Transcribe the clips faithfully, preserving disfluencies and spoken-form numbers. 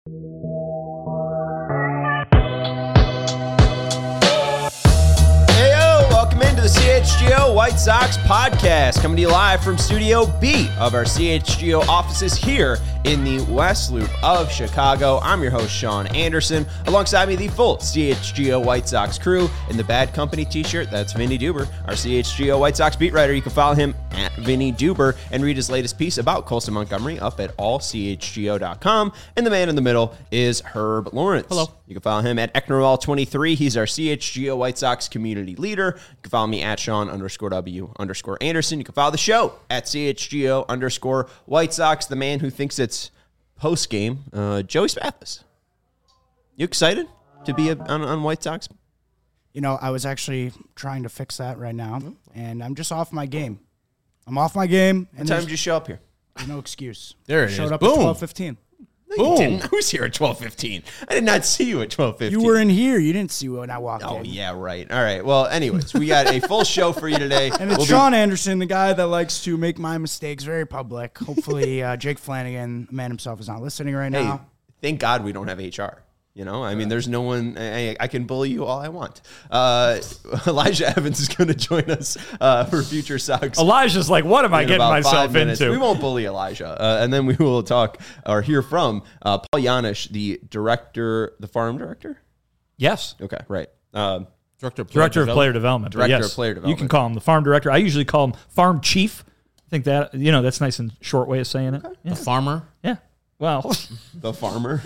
The C H G O White Sox podcast, coming to you live from Studio B of our C H G O offices here in the West Loop of Chicago. I'm your host, Sean Anderson. Alongside me, the full C H G O White Sox crew in the Bad Company t-shirt. That's Vinny Duber, our C H G O White Sox beat writer. You can follow him at Vinny Duber and read his latest piece about Colson Montgomery up at all c h g o dot com. And the man in the middle is Herb Lawrence. Hello. You can follow him at Ecknerall twenty-three. He's our C H G O White Sox community leader. You can follow me at Sean underscore W underscore Anderson. You can follow the show at C H G O underscore White Sox. The man who thinks it's post game, uh, Joey Spathis. You excited to be a, on, on White Sox? You know, I was actually trying to fix that right now, and I'm just off my game. I'm off my game. What time did you show up here? There's no excuse. There it I showed is. up Boom. at twelve fifteen. No, you didn't. I was here at twelve fifteen. I did not see you at twelve fifteen. You were in here. You didn't see when I walked Oh, in. yeah, right. All right. Well, anyways, we got a full show for you today. And it's We'll Sean be- Anderson, the guy that likes to make my mistakes very public. Hopefully, uh, Jake Flanagan, the man himself, is not listening right Hey, now. thank God we don't have H R. You know, I mean, there's no one, I, I can bully you all I want. Uh, Elijah Evans is going to join us uh, for Future Sox. Elijah's like, what am I in getting about myself five minutes. into? We won't bully Elijah. Uh, and then we will talk or hear from uh, Paul Janisch, the director, the farm director? Yes. Okay, right. Um, Director of Player Director of Development. Player Development. but Director yes, of Player You Development. can call him the farm director. I usually call him farm chief. I think that, you know, that's nice and short way of saying it. Yeah. The farmer. yeah. Well, the farmer.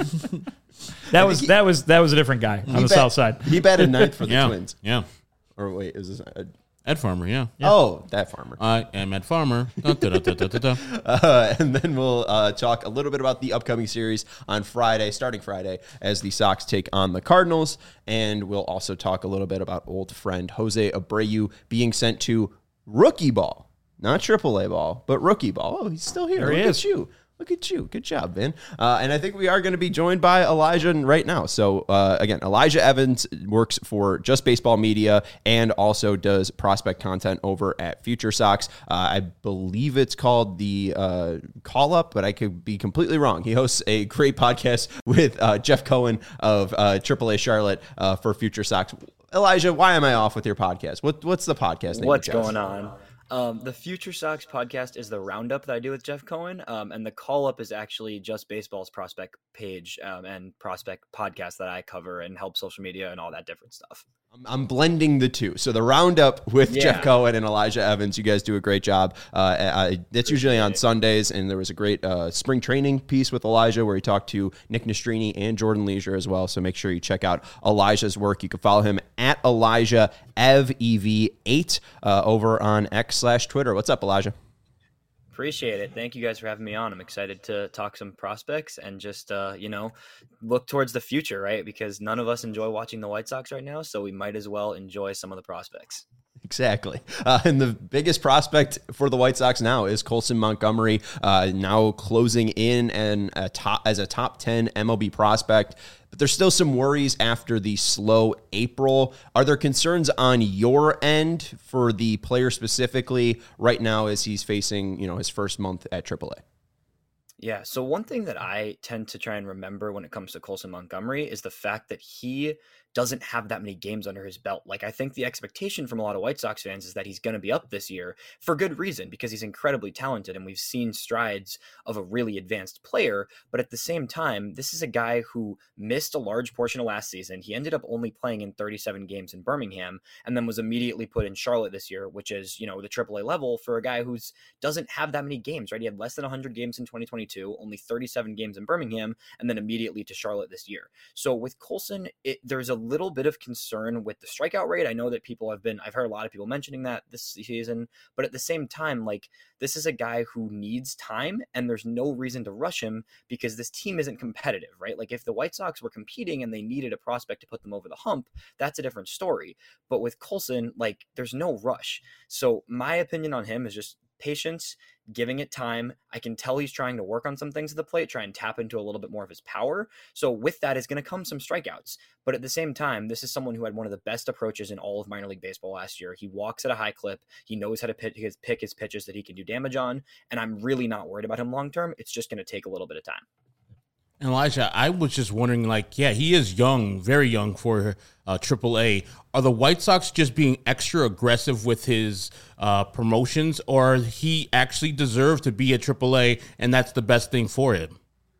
that was he- that was that was a different guy on the bat- south side. He batted ninth for the Yeah. Twins. Yeah. Or wait, is this a, Ed Farmer, yeah. Oh, that farmer. I am Ed Farmer. Dun, dun, dun, dun, dun, dun, dun. Uh, and then we'll uh, talk a little bit about the upcoming series on Friday, starting Friday, as the Sox take on the Cardinals. And we'll also talk a little bit about old friend Jose Abreu being sent to rookie ball. Not triple A ball, but rookie ball. Oh, he's still here. There Look he at is. you. Look at you. Good job, Ben. Uh, and I think we are going to be joined by Elijah right now. So, uh, again, Elijah Evans works for Just Baseball Media and also does prospect content over at Future Sox. Uh, I believe it's called the uh, Call Up, but I could be completely wrong. He hosts a great podcast with uh, Jeff Cohen of uh, triple A Charlotte uh, for Future Sox. Elijah, why am I off with your podcast? What, what's the podcast name? What's Jeff? going on? Um, the Future Sox podcast is the roundup that I do with Jeff Cohen, um, and the call up is actually Just Baseball's prospect page um, and prospect podcast that I cover and help social media and all that different stuff. I'm, I'm blending the two. So the roundup with Yeah. Jeff Cohen and Elijah Evans, you guys do a great job. Uh, I, it's usually on Sundays, and there was a great uh, spring training piece with Elijah where he talked to Nick Nastrini and Jordan Leisure as well. So make sure you check out Elijah's work. You can follow him at Elijah Ev E V eight uh, over on X slash Twitter. What's up, Elijah? Appreciate it. Thank you guys for having me on. I'm excited to talk some prospects and just, uh, you know, look towards the future, right? Because none of us enjoy watching the White Sox right now, so we might as well enjoy some of the prospects. Exactly. Uh, and the biggest prospect for the White Sox now is Colson Montgomery, uh, now closing in and a top, as a top ten M L B prospect. But there's still some worries after the slow April. Are there concerns on your end for the player specifically right now as he's facing, you know, his first month at triple A? Yeah, so one thing that I tend to try and remember when it comes to Colson Montgomery is the fact that he doesn't have that many games under his belt. Like, I think the expectation from a lot of White Sox fans is that he's going to be up this year for good reason, because he's incredibly talented and we've seen strides of a really advanced player. But at the same time, this is a guy who missed a large portion of last season. He ended up only playing in thirty-seven games in Birmingham and then was immediately put in Charlotte this year, which is, you know, the triple A level for a guy who's doesn't have that many games, right? He had less than one hundred games in twenty twenty-two, only thirty-seven games in Birmingham, and then immediately to Charlotte this year. So with Colson, it, there's a little bit of concern with the strikeout rate. I know that people have been, I've heard a lot of people mentioning that this season, but at the same time, like, this is a guy who needs time and there's no reason to rush him because this team isn't competitive, right? Like, if the White Sox were competing and they needed a prospect to put them over the hump, that's a different story. But with Colson, like, there's no rush. So my opinion on him is just patience, giving it time. I can tell he's trying to work on some things at the plate, try and tap into a little bit more of his power. So with that is going to come some strikeouts. But at the same time, this is someone who had one of the best approaches in all of minor league baseball last year. He walks at a high clip. He knows how to pick his, pick his pitches that he can do damage on. And I'm really not worried about him long term. It's just going to take a little bit of time. And Elijah, I was just wondering, like, yeah, he is young, very young for uh, triple A. Are the White Sox just being extra aggressive with his uh, promotions, or he actually deserves to be at triple A, and that's the best thing for him?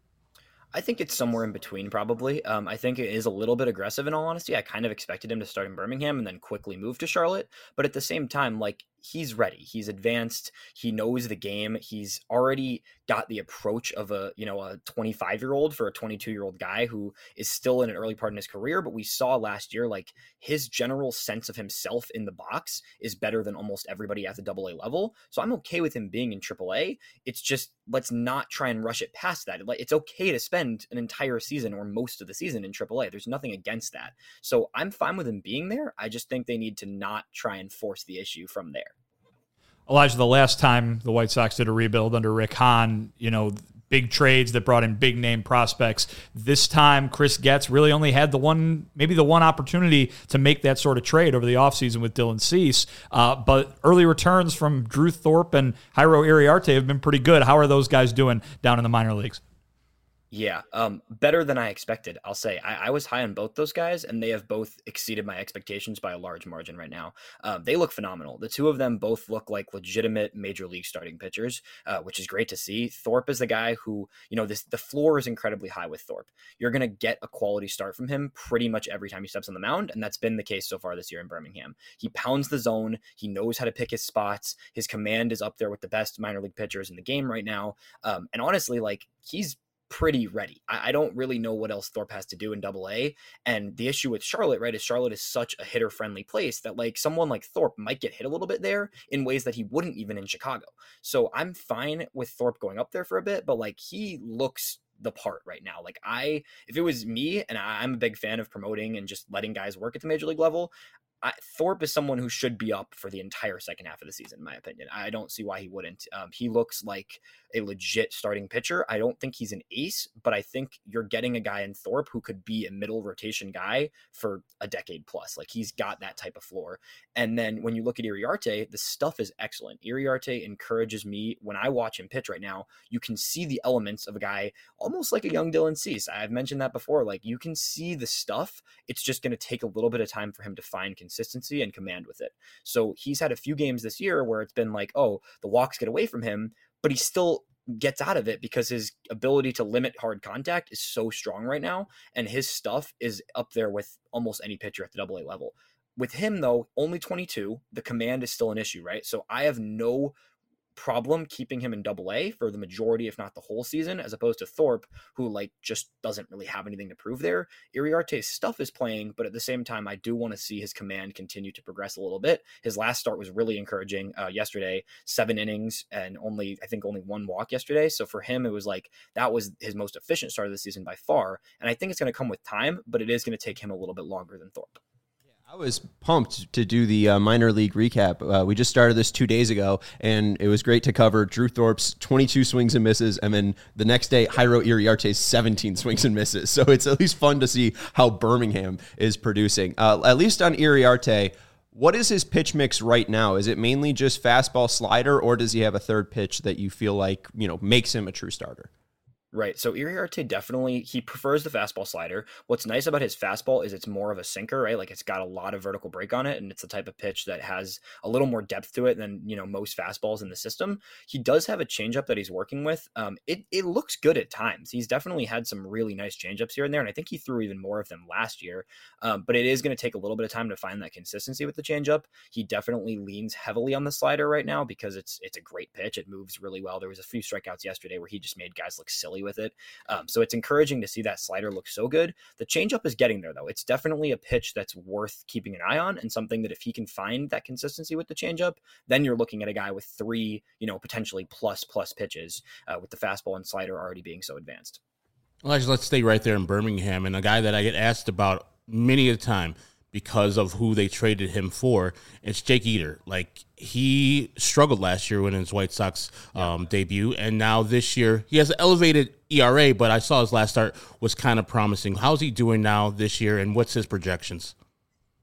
I think it's somewhere in between, probably. Um, I think it is a little bit aggressive, in all honesty. I kind of expected him to start in Birmingham and then quickly move to Charlotte. But at the same time, like, he's ready. He's advanced. He knows the game. He's already got the approach of a, you know, a twenty-five year old for a twenty-two year old guy who is still in an early part in his career. But we saw last year, like, his general sense of himself in the box is better than almost everybody at the double A level. So I'm okay with him being in triple A. It's just, let's not try and rush it past that. Like, it's okay to spend an entire season or most of the season in triple A. There's nothing against that. So I'm fine with him being there. I just think they need to not try and force the issue from there. Elijah, the last time the White Sox did a rebuild under Rick Hahn, you know, big trades that brought in big name prospects. This time, Chris Getz really only had the one, maybe the one opportunity to make that sort of trade over the offseason with Dylan Cease. Uh, but early returns from Drew Thorpe and Jairo Iriarte have been pretty good. How are those guys doing down in the minor leagues? Yeah, um, better than I expected, I'll say. I, I was high on both those guys, and they have both exceeded my expectations by a large margin right now. Um, they look phenomenal. The two of them both look like legitimate major league starting pitchers, uh, which is great to see. Thorpe is the guy who, you know, this the floor is incredibly high with Thorpe. You're going to get a quality start from him pretty much every time he steps on the mound, and that's been the case so far this year in Birmingham. He pounds the zone. He knows how to pick his spots. His command is up there with the best minor league pitchers in the game right now. Um, and honestly, like, he's pretty ready. I, I don't really know what else Thorpe has to do in double A. And the issue with Charlotte, right, is Charlotte is such a hitter friendly place that, like, someone like Thorpe might get hit a little bit there in ways that he wouldn't even in Chicago. So I'm fine with Thorpe going up there for a bit, but, like, he looks the part right now. Like, I, if it was me, and I, I'm a big fan of promoting and just letting guys work at the major league level, I, Thorpe is someone who should be up for the entire second half of the season, in my opinion. I don't see why he wouldn't. Um, he looks like a legit starting pitcher. I don't think he's an ace, but I think you're getting a guy in Thorpe who could be a middle rotation guy for a decade plus. Like, he's got that type of floor. And then when you look at Iriarte, the stuff is excellent. Iriarte encourages me. When I watch him pitch right now, you can see the elements of a guy almost like a young Dylan Cease. I've mentioned that before. Like, you can see the stuff. It's just going to take a little bit of time for him to find consistency and command with it. So he's had a few games this year where it's been like, oh, the walks get away from him, but he still gets out of it because his ability to limit hard contact is so strong right now. And his stuff is up there with almost any pitcher at the double A level. With him, though, only twenty-two, the command is still an issue, right? So I have no problem keeping him in double A for the majority, if not the whole season, as opposed to Thorpe, who, like, just doesn't really have anything to prove there. Iriarte's stuff is playing, but at the same time, I do want to see his command continue to progress a little bit. His last start was really encouraging uh, yesterday, seven innings and only, I think only one walk yesterday. So for him, it was like, that was his most efficient start of the season by far. And I think it's going to come with time, but it is going to take him a little bit longer than Thorpe. I was pumped to do the uh, minor league recap. Uh, we just started this two days ago, and it was great to cover Drew Thorpe's twenty-two swings and misses, and then the next day, Jairo Iriarte's seventeen swings and misses. So it's at least fun to see how Birmingham is producing. Uh, at least on Iriarte, what is his pitch mix right now? Is it mainly just fastball slider, or does he have a third pitch that you feel like, you know, makes him a true starter? Right. So Iriarte definitely, he prefers the fastball slider. What's nice about his fastball is it's more of a sinker, right? Like, it's got a lot of vertical break on it, and it's the type of pitch that has a little more depth to it than, you know, most fastballs in the system. He does have a changeup that he's working with. Um, it, it looks good at times. He's definitely had some really nice changeups here and there, and I think he threw even more of them last year. Um, but it is going to take a little bit of time to find that consistency with the changeup. He definitely leans heavily on the slider right now because it's it's a great pitch. It moves really well. There was a few strikeouts yesterday where he just made guys look silly with it. Um, so it's encouraging to see that slider look so good. The changeup is getting there, though. It's definitely a pitch that's worth keeping an eye on, and something that if he can find that consistency with the changeup, then you're looking at a guy with three, you know, potentially plus plus pitches uh, with the fastball and slider already being so advanced. Elijah, let's stay right there in Birmingham, and a guy that I get asked about many a time because of who they traded him for, it's Jake Eder. Like, he struggled last year when his White Sox um, yeah. debut, and now this year he has an elevated E R A, but I saw his last start was kind of promising. How's he doing now this year, and what's his projections?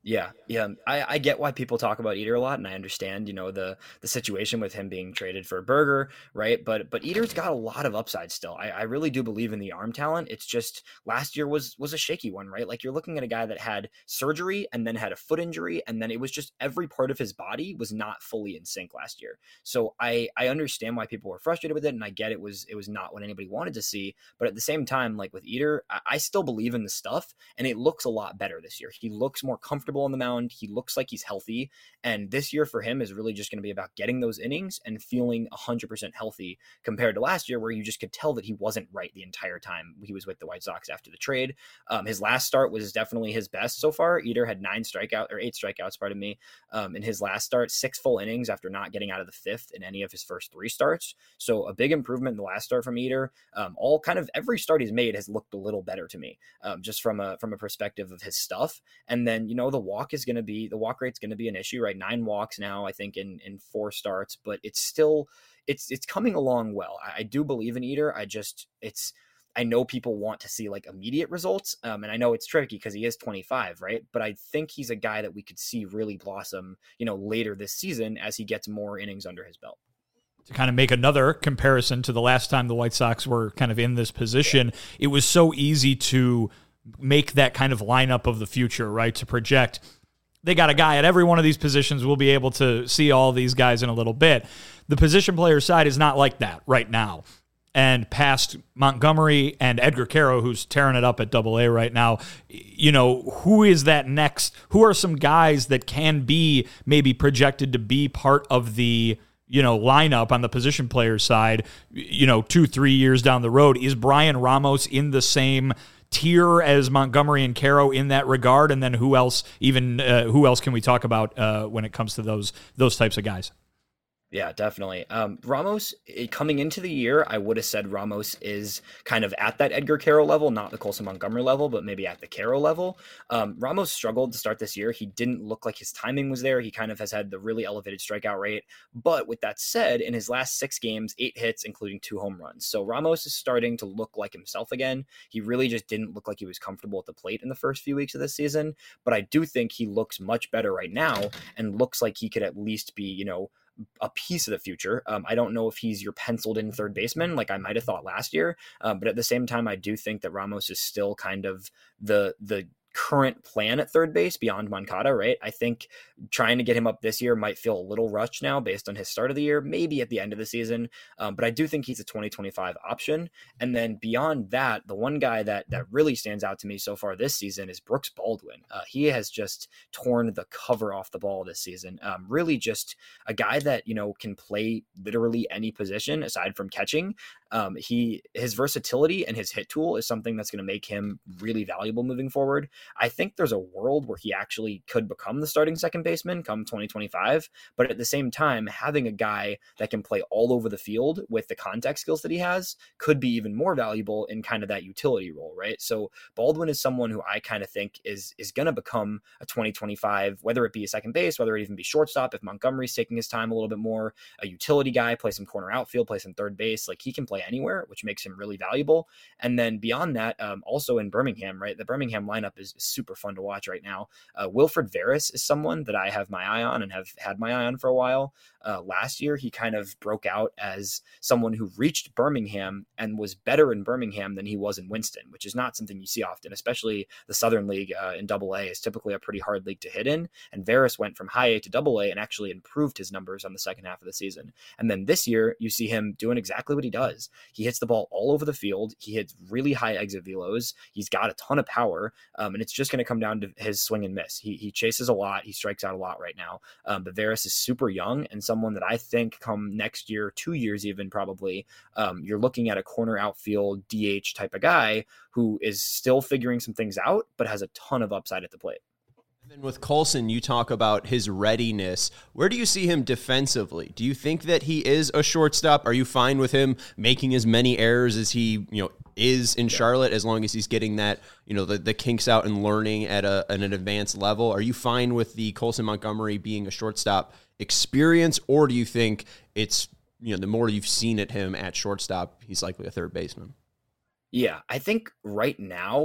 Yeah, yeah, I, I get why people talk about Eater a lot, and I understand, you know, the the situation with him being traded for Berger, right? But but Eater's got a lot of upside still. I, I really do believe in the arm talent. It's just last year was was a shaky one, right? Like you're looking at a guy that had surgery and then had a foot injury, and then it was just every part of his body was not fully in sync last year. So I I understand why people were frustrated with it, and I get it was it was not what anybody wanted to see. But at the same time, like with Eater, I, I still believe in the stuff, and it looks a lot better this year. He looks more comfortable on the mound. He looks like he's healthy. And this year for him is really just going to be about getting those innings and feeling one hundred percent healthy compared to last year, where you just could tell that he wasn't right the entire time he was with the White Sox after the trade. Um, his last start was definitely his best so far. Eater had nine strikeouts or eight strikeouts, pardon me, um, in his last start, six full innings after not getting out of the fifth in any of his first three starts. So a big improvement in the last start from Eater. Um, all kind of every start he's made has looked a little better to me, um, just from a from a perspective of his stuff. And then, you know, the walk is going to be, the walk rate's going to be an issue, right? Nine walks now, I think in, in four starts, but it's still, it's, it's coming along well. I, I do believe in Eater. I just, it's, I know people want to see like immediate results. Um, and I know it's tricky because he is twenty-five, right? But I think he's a guy that we could see really blossom, you know, later this season as he gets more innings under his belt. To kind of make another comparison to the last time the White Sox were kind of in this position, yeah. It was so easy to make that kind of lineup of the future, right? To project, they got a guy at every one of these positions. We'll be able to see all these guys in a little bit. The position player side is not like that right now. And past Montgomery and Edgar Quero, who's tearing it up at Double A right now, you know, who is that next? Who are some guys that can be maybe projected to be part of the, you know, lineup on the position player side, you know, two, three years down the road? Is Brian Ramos in the same tier as Montgomery and Quero in that regard? And then who else, even uh, who else can we talk about uh, when it comes to those those types of guys? Yeah, definitely. Um, Ramos, it, coming into the year, I would have said Ramos is kind of at that Edgar Quero level, not the Colson Montgomery level, but maybe at the Quero level. Um, Ramos struggled to start this year. He didn't look like his timing was there. He kind of has had the really elevated strikeout rate. But with that said, in his last six games, eight hits, including two home runs. So Ramos is starting to look like himself again. He really just didn't look like he was comfortable at the plate in the first few weeks of this season. But I do think he looks much better right now and looks like he could at least be, you know, a piece of the future. Um, I don't know if he's your penciled in third baseman like I might have thought last year, um, but at the same time, I do think that Ramos is still kind of the the current plan at third base beyond Moncada, right? I think trying to get him up this year might feel a little rushed now based on his start of the year, maybe at the end of the season. Um, but I do think he's a twenty twenty-five option. And then beyond that, the one guy that that really stands out to me so far this season is Brooks Baldwin. Uh, he has just torn the cover off the ball this season. Um, really just a guy that, you know, can play literally any position aside from catching. Um, he, his versatility and his hit tool is something that's going to make him really valuable moving forward. I think there's a world where he actually could become the starting second baseman come twenty twenty-five. But at the same time, having a guy that can play all over the field with the contact skills that he has could be even more valuable in kind of that utility role, right? So Baldwin is someone who I kind of think is, is going to become a twenty twenty-five, whether it be a second base, whether it even be shortstop, if Montgomery's taking his time a little bit more, a utility guy, play some corner outfield, play some third base, like he can play anywhere, which makes him really valuable. And then beyond that, um, also in Birmingham, right? The Birmingham lineup is, is super fun to watch right now. Uh, Wilfred Veras is someone that I have my eye on and have had my eye on for a while. Uh, last year, he kind of broke out as someone who reached Birmingham and was better in Birmingham than he was in Winston, which is not something you see often, especially the Southern League uh, in Double A is typically a pretty hard league to hit in. And Veras went from high A to Double A and actually improved his numbers on the second half of the season. And then this year, you see him doing exactly what he does. He hits the ball all over the field. He hits really high exit velos. He's got a ton of power, um, and it's just going to come down to his swing and miss. He he chases a lot. He strikes out a lot right now. Um, but Veras is super young and someone that I think come next year, two years even probably, um, you're looking at a corner outfield D H type of guy who is still figuring some things out, but has a ton of upside at the plate. And then with Colson, you talk about his readiness. Where do you see him defensively? Do you think that he is a shortstop? Are you fine with him making as many errors as he, you know, is in Charlotte, as long as he's getting that, you know, the, the kinks out and learning at, a, at an advanced level? Are you fine with the Colson Montgomery being a shortstop experience, or do you think it's, you know, the more you've seen at him at shortstop, he's likely a third baseman? Yeah, I think right now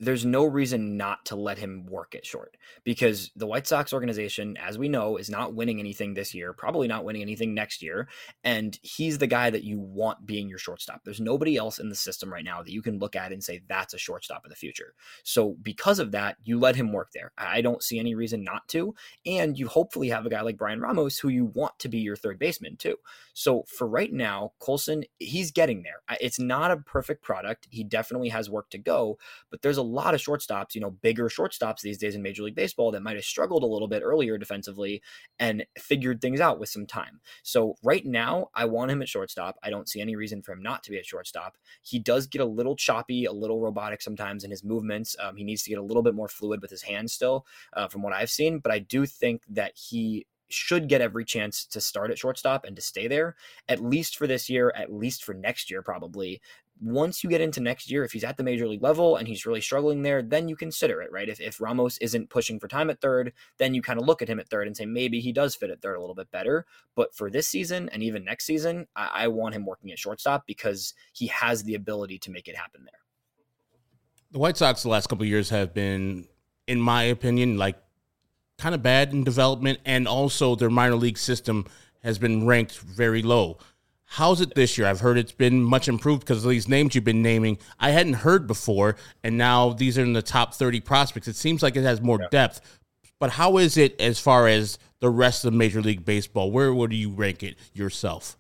there's no reason not to let him work at short, because the White Sox organization, as we know, is not winning anything this year, probably not winning anything next year. And he's the guy that you want being your shortstop. There's nobody else in the system right now that you can look at and say, that's a shortstop of the future. So because of that, you let him work there. I don't see any reason not to. And you hopefully have a guy like Brian Ramos, who you want to be your third baseman too. So for right now, Colson, he's getting there. It's not a perfect product. He definitely has work to go, but there's a lot of shortstops, you know, bigger shortstops these days in Major League Baseball that might have struggled a little bit earlier defensively and figured things out with some time. So right now, I want him at shortstop. I don't see any reason for him not to be at shortstop. He does get a little choppy, a little robotic sometimes in his movements. Um, he needs to get a little bit more fluid with his hands still, uh, from what I've seen. But I do think that he should get every chance to start at shortstop and to stay there, at least for this year, at least for next year, probably. Once you get into next year, if he's at the major league level and he's really struggling there, then you consider it, right? If, if Ramos isn't pushing for time at third, then you kind of look at him at third and say, maybe he does fit at third a little bit better. But for this season and even next season, I, I want him working at shortstop because he has the ability to make it happen there. The White Sox the last couple of years have been, in my opinion, like kind of bad in development, and also their minor league system has been ranked very low. How's it this year? I've heard it's been much improved because of these names you've been naming. I hadn't heard before, and now these are in the top thirty prospects. It seems like it has more yeah. depth. But how is it as far as the rest of Major League Baseball? Where would you rank it yourself?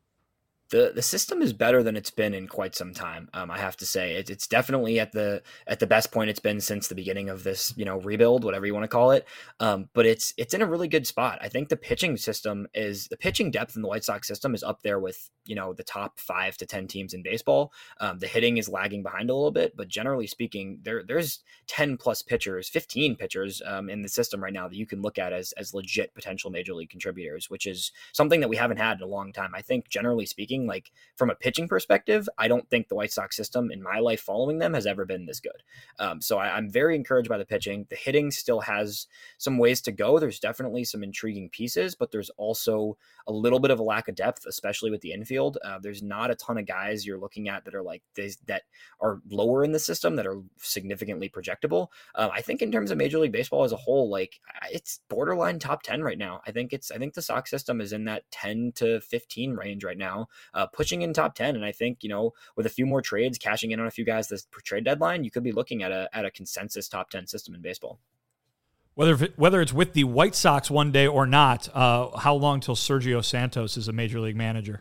The the system is better than it's been in quite some time. Um, I have to say it, it's definitely at the at the best point it's been since the beginning of this, you know, rebuild, whatever you want to call it. Um, but it's it's in a really good spot. I think the pitching system is the pitching depth in the White Sox system is up there with, you know, the top five to ten teams in baseball. Um, the hitting is lagging behind a little bit, but generally speaking, there there's ten plus pitchers, fifteen pitchers um, in the system right now that you can look at as as legit potential major league contributors, which is something that we haven't had in a long time. I think generally speaking, like from a pitching perspective, I don't think the White Sox system in my life following them has ever been this good. Um, so I, I'm very encouraged by the pitching. The hitting still has some ways to go. There's definitely some intriguing pieces, but there's also a little bit of a lack of depth, especially with the infield. Uh, there's not a ton of guys you're looking at that are like this, that are lower in the system that are significantly projectable. Uh, I think in terms of Major League Baseball as a whole, like it's borderline top ten right now. I think it's, I think the Sox system is in that ten to fifteen range right now. Uh, pushing in top ten. And I think, you know, with a few more trades, cashing in on a few guys this trade deadline, you could be looking at a at a consensus top ten system in baseball. Whether whether it's with the White Sox one day or not, uh, how long till Sergio Santos is a major league manager?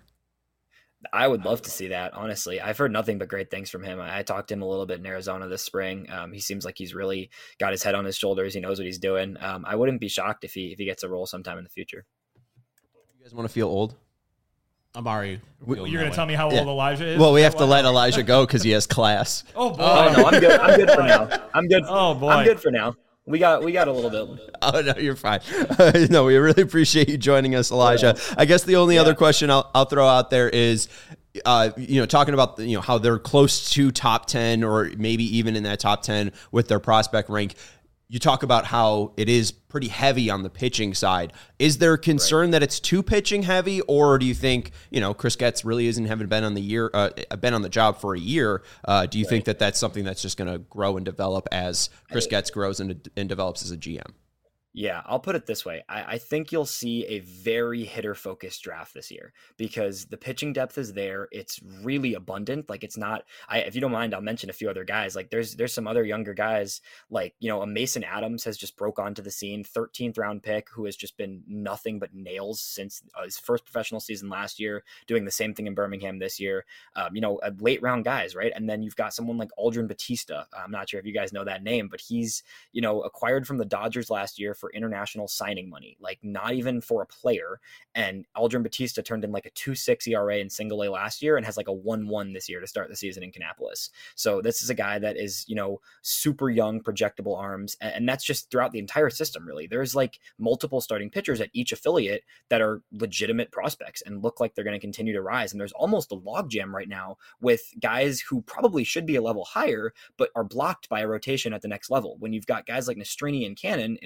I would love to see that, honestly. I've heard nothing but great things from him. I, I talked to him a little bit in Arizona this spring. Um, he seems like he's really got his head on his shoulders. He knows what he's doing. Um, I wouldn't be shocked if he if he gets a role sometime in the future. You guys want to feel old? I'm already. You're going to tell me how yeah. old Elijah is? Well, we have to let Elijah go because he has class. Oh, boy. Oh, no, I'm good. I'm good for now. I'm good. Oh, boy. I'm good for now. We got we got a little bit. Oh, no, you're fine. No, we really appreciate you joining us, Elijah. Yeah. I guess the only yeah. other question I'll, I'll throw out there is, uh, you know, talking about, you know, how they're close to top ten or maybe even in that top ten with their prospect rank. You talk about how it is pretty heavy on the pitching side. Is there a concern right. that it's too pitching heavy, or do you think, you know, Chris Getz really isn't having been on the year, uh, been on the job for a year? Uh, do you right. think that that's something that's just going to grow and develop as Chris Getz grows and, and develops as a G M? Yeah, I'll put it this way. I, I think you'll see a very hitter-focused draft this year because the pitching depth is there. It's really abundant. Like it's not. I, if you don't mind, I'll mention a few other guys. Like there's there's some other younger guys. Like you know, a Mason Adams has just broke onto the scene, thirteenth round pick, who has just been nothing but nails since uh, his first professional season last year. Doing the same thing in Birmingham this year. Um, you know, a late round guys, right? And then you've got someone like Aldrin Batista. I'm not sure if you guys know that name, but he's you know acquired from the Dodgers last year for international signing money, like not even for a player. And Aldrin Batista turned in like a two point six E R A in single A last year and has like a one one this year to start the season in Kannapolis. So this is a guy that is, you know, super young, projectable arms. And that's just throughout the entire system, really. There's like multiple starting pitchers at each affiliate that are legitimate prospects and look like they're going to continue to rise. And there's almost a logjam right now with guys who probably should be a level higher, but are blocked by a rotation at the next level. When you've got guys like Nastrini and Cannon in Charlotte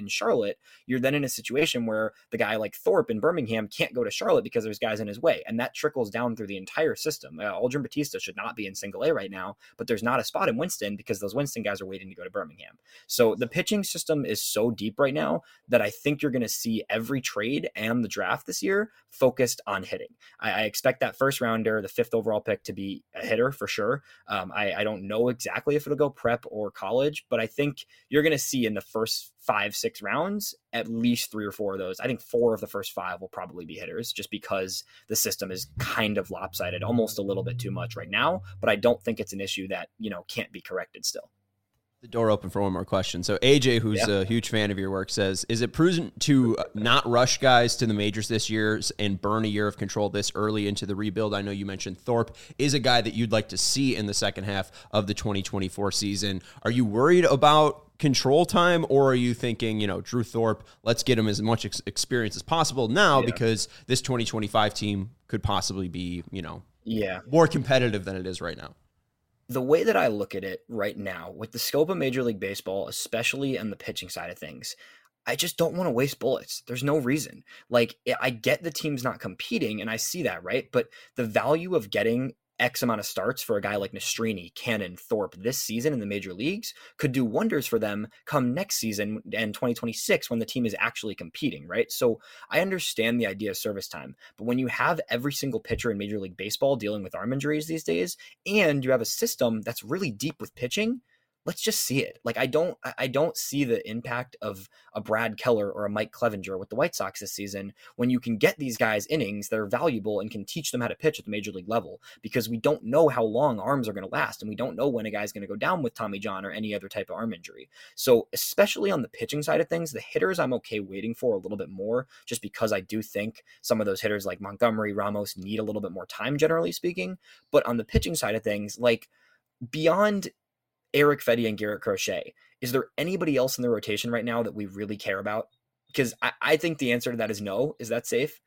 Charlotte, you're then in a situation where the guy like Thorpe in Birmingham can't go to Charlotte because there's guys in his way. And that trickles down through the entire system. Uh, Aldrin Batista should not be in single A right now, but there's not a spot in Winston because those Winston guys are waiting to go to Birmingham. So the pitching system is so deep right now that I think you're going to see every trade and the draft this year focused on hitting. I, I expect that first rounder, the fifth overall pick, to be a hitter for sure. Um, I, I don't know exactly if it'll go prep or college, but I think you're going to see in the first five, six rounds, at least three or four of those. I think four of the first five will probably be hitters just because the system is kind of lopsided, almost a little bit too much right now, but I don't think it's an issue that, you know, can't be corrected still. The door open for one more question. So A J, who's yeah. a huge fan of your work, says, is it prudent to not rush guys to the majors this year and burn a year of control this early into the rebuild? I know you mentioned Thorpe is a guy that you'd like to see in the second half of the twenty twenty-four season. Are you worried about control time, or are you thinking, you know, Drew Thorpe, let's get him as much ex- experience as possible now yeah. because this twenty twenty-five team could possibly be, you know, yeah, more competitive than it is right now? The way that I look at it right now, with the scope of Major League Baseball, especially on the pitching side of things, I just don't want to waste bullets. There's no reason. Like, I get the team's not competing, and I see that, right? But the value of getting X amount of starts for a guy like Nastrini, Cannon, Thorpe this season in the major leagues could do wonders for them come next season and twenty twenty-six when the team is actually competing, right? So I understand the idea of service time, but when you have every single pitcher in Major League Baseball dealing with arm injuries these days, and you have a system that's really deep with pitching, let's just see it. Like, I don't, I don't see the impact of a Brad Keller or a Mike Clevenger with the White Sox this season when you can get these guys innings that are valuable and can teach them how to pitch at the major league level, because we don't know how long arms are going to last, and we don't know when a guy's going to go down with Tommy John or any other type of arm injury. So especially on the pitching side of things, the hitters I'm okay waiting for a little bit more, just because I do think some of those hitters like Montgomery, Ramos need a little bit more time, generally speaking. But on the pitching side of things, like beyond Eric Fedde and Garrett Crochet, is there anybody else in the rotation right now that we really care about? Because I, I think the answer to that is no. Is that safe?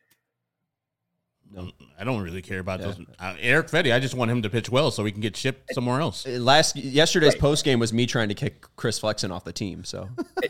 No, I don't really care about yeah. those. Uh, Eric Fedde, I just want him to pitch well so we can get shipped somewhere else. Last yesterday's right. post game was me trying to kick Chris Flexen off the team. So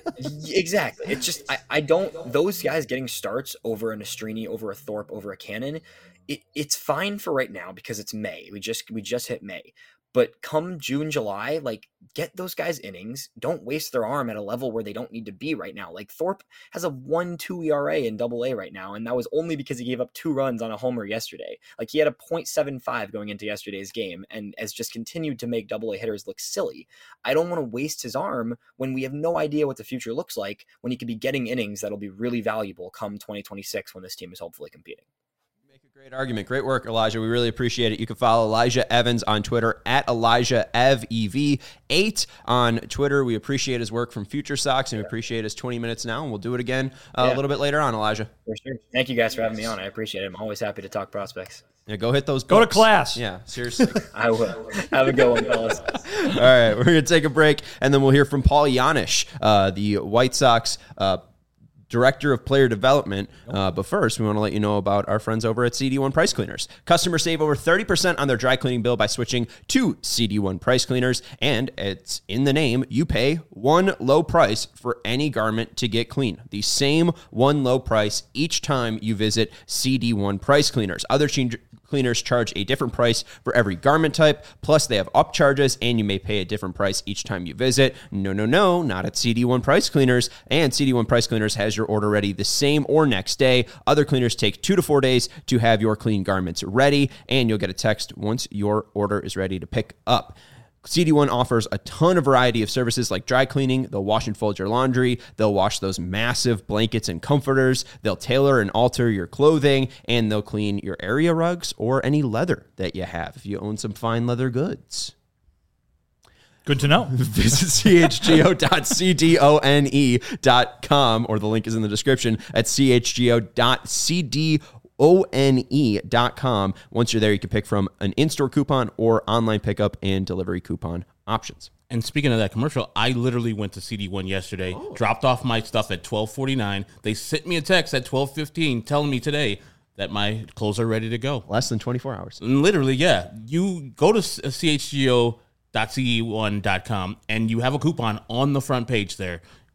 exactly, it's just I, I don't those guys getting starts over a Nastrini, over a Thorpe, over a Cannon. It, it's fine for right now because it's May. We just we just hit May. But come June, July, like, get those guys innings. Don't waste their arm at a level where they don't need to be right now. Like, Thorpe has a one two E R A in double A right now, and that was only because he gave up two runs on a homer yesterday. Like, he had a point seven five going into yesterday's game and has just continued to make double A hitters look silly. I don't want to waste his arm when we have no idea what the future looks like, when he could be getting innings that'll be really valuable come twenty twenty-six when this team is hopefully competing. Great argument. Great work, Elijah. We really appreciate it. You can follow Elijah Evans on Twitter at Elijah Ev E V eight on Twitter. We appreciate his work from Future Sox, and we appreciate his twenty minutes now, and we'll do it again uh, yeah. a little bit later on, Elijah. For sure. Thank you guys for having me on. I appreciate it. I'm always happy to talk prospects. Yeah, go hit those books. Go to class. Yeah, seriously. I will. Have a good one, fellas. All right, we're going to take a break, and then we'll hear from Paul Janisch, uh, the White Sox uh Director of Player Development. Uh, but first, we want to let you know about our friends over at C D one Price Cleaners. Customers save over thirty percent on their dry cleaning bill by switching to C D one Price Cleaners. And it's in the name, you pay one low price for any garment to get clean. The same one low price each time you visit C D one Price Cleaners. Other change- cleaners charge a different price for every garment type. Plus, they have upcharges, and you may pay a different price each time you visit. No, no, no, not at C D one Price Cleaners. And C D one Price Cleaners has your order ready the same or next day. Other cleaners take two to four days to have your clean garments ready, and you'll get a text once your order is ready to pick up. C D one offers a ton of variety of services like dry cleaning. They'll wash and fold your laundry. They'll wash those massive blankets and comforters. They'll tailor and alter your clothing, and they'll clean your area rugs or any leather that you have if you own some fine leather goods. Good to know. Visit C H G O dot C D O N E dot com, or the link is in the description at C H G O dot C D O N E dot com. Once you're there, you can pick from an in-store coupon or online pickup and delivery coupon options. And speaking of that commercial, I literally went to C D one yesterday, oh. dropped off my stuff at twelve forty-nine. They sent me a text at twelve fifteen telling me today that my clothes are ready to go. Less than twenty-four hours. And literally, yeah. You go to C H G O dot C D one dot com and you have a coupon on the front page there.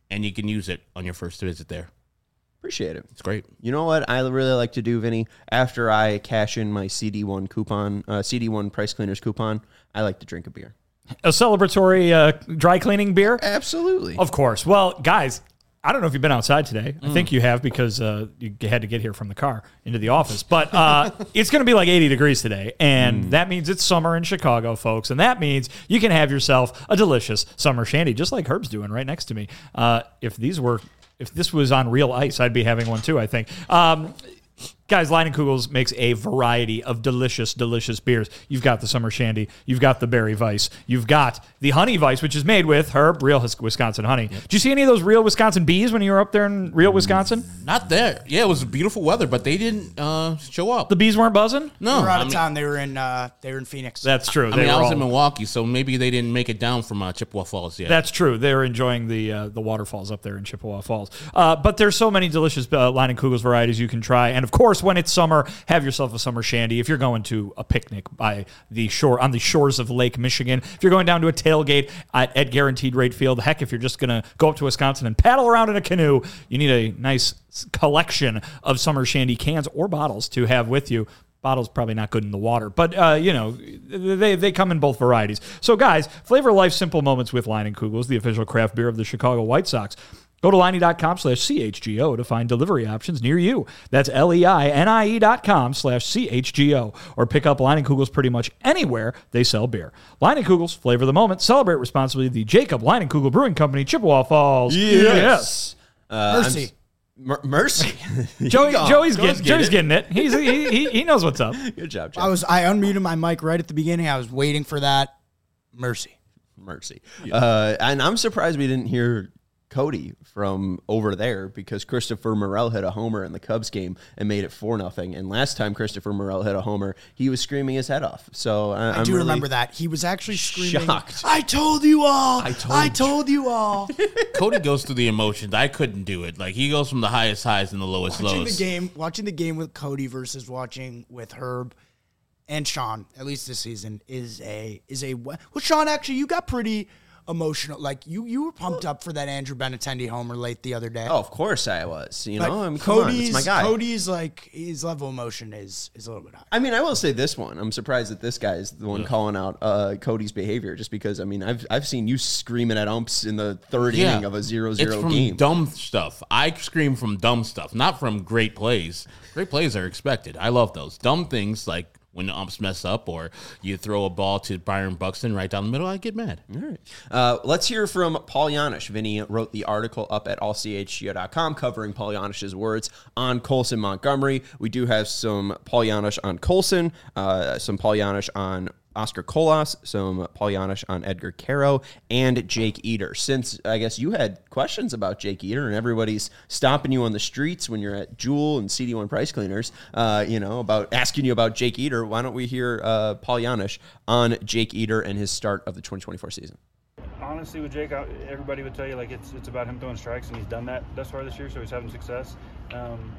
and you can use it on your first visit there. Appreciate it. It's great. You know what I really like to do, Vinny? After I cash in my C D one coupon, uh, C D one Price Cleaners coupon, I like to drink a beer. A celebratory uh, dry cleaning beer? Absolutely. Of course. Well, guys, I don't know if you've been outside today. I mm. think you have because uh, you had to get here from the car into the office. But uh, it's going to be like eighty degrees today, and mm. that means it's summer in Chicago, folks. And that means you can have yourself a delicious summer shandy, just like Herb's doing right next to me. Uh, if these were... If this was on real ice, I'd be having one too, I think. Um, guys, Leinenkugel's makes a variety of delicious, delicious beers. You've got the Summer Shandy. You've got the Berry Weiss. You've got the Honey Weiss, which is made with Herb, real Wisconsin honey. Yep. Did you see any of those real Wisconsin bees when you were up there in real Wisconsin? Not there. Yeah, it was beautiful weather, but they didn't uh, show up. The bees weren't buzzing? No. They were out I of mean, town. They were in uh, they were in Phoenix. That's true. I they mean, I was all, in Milwaukee, so maybe they didn't make it down from uh, Chippewa Falls yet. That's true. They're enjoying the uh, the waterfalls up there in Chippewa Falls. Uh, but there's so many delicious uh, Leinenkugel's varieties you can try. And, of course, when it's summer, have yourself a summer shandy. If you're going to a picnic by the shore on the shores of Lake Michigan, if you're going down to a tailgate at, at Guaranteed Rate Field, heck, if you're just going to go up to Wisconsin and paddle around in a canoe, you need a nice collection of summer shandy cans or bottles to have with you. Bottles probably not good in the water, but, uh, you know, they they come in both varieties. So, guys, flavor life simple moments with Leinenkugel's, the official craft beer of the Chicago White Sox. Go to Leinie.com slash CHGO to find delivery options near you. That's L-E-I-N-I-E dot com slash C-H-G-O. Or pick up Leinenkugel's pretty much anywhere they sell beer. Leinenkugel's, flavor the moment. Celebrate responsibly. The Jacob Leinenkugel Brewing Company, Chippewa Falls. Yes. yes. Uh, Mercy. Mer- mercy. Joey, Joey's, Go getting, get Joey's it. getting it. He's, he, he, he knows what's up. Good job, Joe. I was I unmuted my mic right at the beginning. I was waiting for that. Mercy. Mercy. Yeah. Uh, and I'm surprised we didn't hear Cody from over there because Christopher Morel hit a homer in the Cubs game and made it four nothing. And last time Christopher Morel hit a homer, he was screaming his head off. So uh, I I'm do really remember that. He was actually screaming, shocked. I told you all. I told I you." told you all. Cody goes through the emotions. I couldn't do it. Like, he goes from the highest highs and the lowest watching lows. the game, watching the game with Cody versus watching with Herb and Sean, at least this season, is a is a well, Sean, actually, you got pretty emotional. Like, you you were pumped up for that Andrew Benintendi homer late the other day. Oh, of course I was. You Like, know, I mean, come on, Cody's it's my guy. Cody's like his level of emotion is is a little bit high. I mean, I will say this one. I'm surprised that this guy is the one calling out uh, Cody's behavior, just because. I mean, I've I've seen you screaming at umps in the third Yeah. inning of a zero zero It's from game. dumb stuff. I scream from dumb stuff, not from great plays. Great plays are expected. I love those. Dumb things like when the umps mess up or you throw a ball to Byron Buxton right down the middle, I get mad. All right. Uh, let's hear from Paul Janisch. Vinny wrote the article up at all c h g o dot com covering Paul Janisch's words on Colson Montgomery. We do have some Paul Janisch on Colson, uh, some Paul Janisch on Oscar Colas, some Paul Janisch on Edgar Caro, and Jake Eder. Since I guess you had questions about Jake Eder and everybody's stopping you on the streets when you're at Jewel and C D one Price Cleaners, uh, you know, about asking you about Jake Eder, why don't we hear uh, Paul Janisch on Jake Eder and his start of the twenty twenty-four season? Honestly, with Jake, everybody would tell you like it's it's about him throwing strikes, and he's done that thus far this year, so he's having success. Um,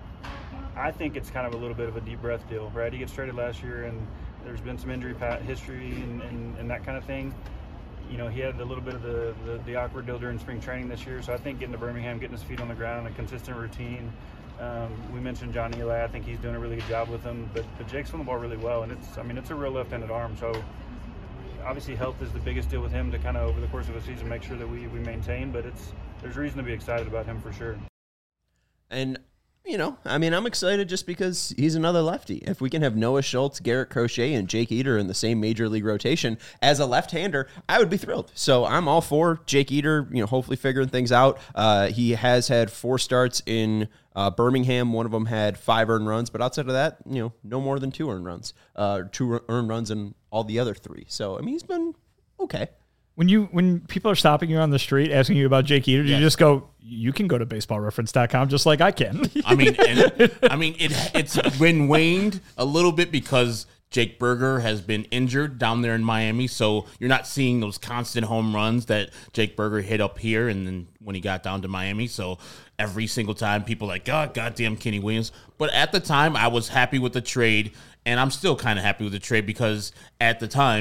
I think it's kind of a little bit of a deep breath deal, right? He gets traded last year, and there's been some injury history and, and, and that kind of thing. You know, he had a little bit of the, the, the awkward deal during spring training this year, so I think getting to Birmingham, getting his feet on the ground, a consistent routine. Um, we mentioned John Eli. I think he's doing a really good job with him, but, but Jake's throwing the ball really well, and it's I mean, it's a real left-handed arm, so obviously health is the biggest deal with him to kind of over the course of a season make sure that we, we maintain, but it's there's reason to be excited about him for sure. And you know, I mean, I'm excited just because he's another lefty. If we can have Noah Schultz, Garrett Crochet, and Jake Eder in the same major league rotation as a left-hander, I would be thrilled. So I'm all for Jake Eder, you know, hopefully figuring things out. Uh, he has had four starts in uh, Birmingham. One of them had five earned runs, but outside of that, you know, no more than two earned runs. Uh, two earned runs in all the other three. So, I mean, he's been okay. When you when people are stopping you on the street asking you about Jake Eder, do Yes. you just go, you can go to baseball reference dot com just like I can? I mean, and, I mean, it it's been waned a little bit because Jake Berger has been injured down there in Miami, so you're not seeing those constant home runs that Jake Berger hit up here and then when he got down to Miami. So every single time people are like, God, goddamn Kenny Williams. But at the time, I was happy with the trade, and I'm still kind of happy with the trade because at the time,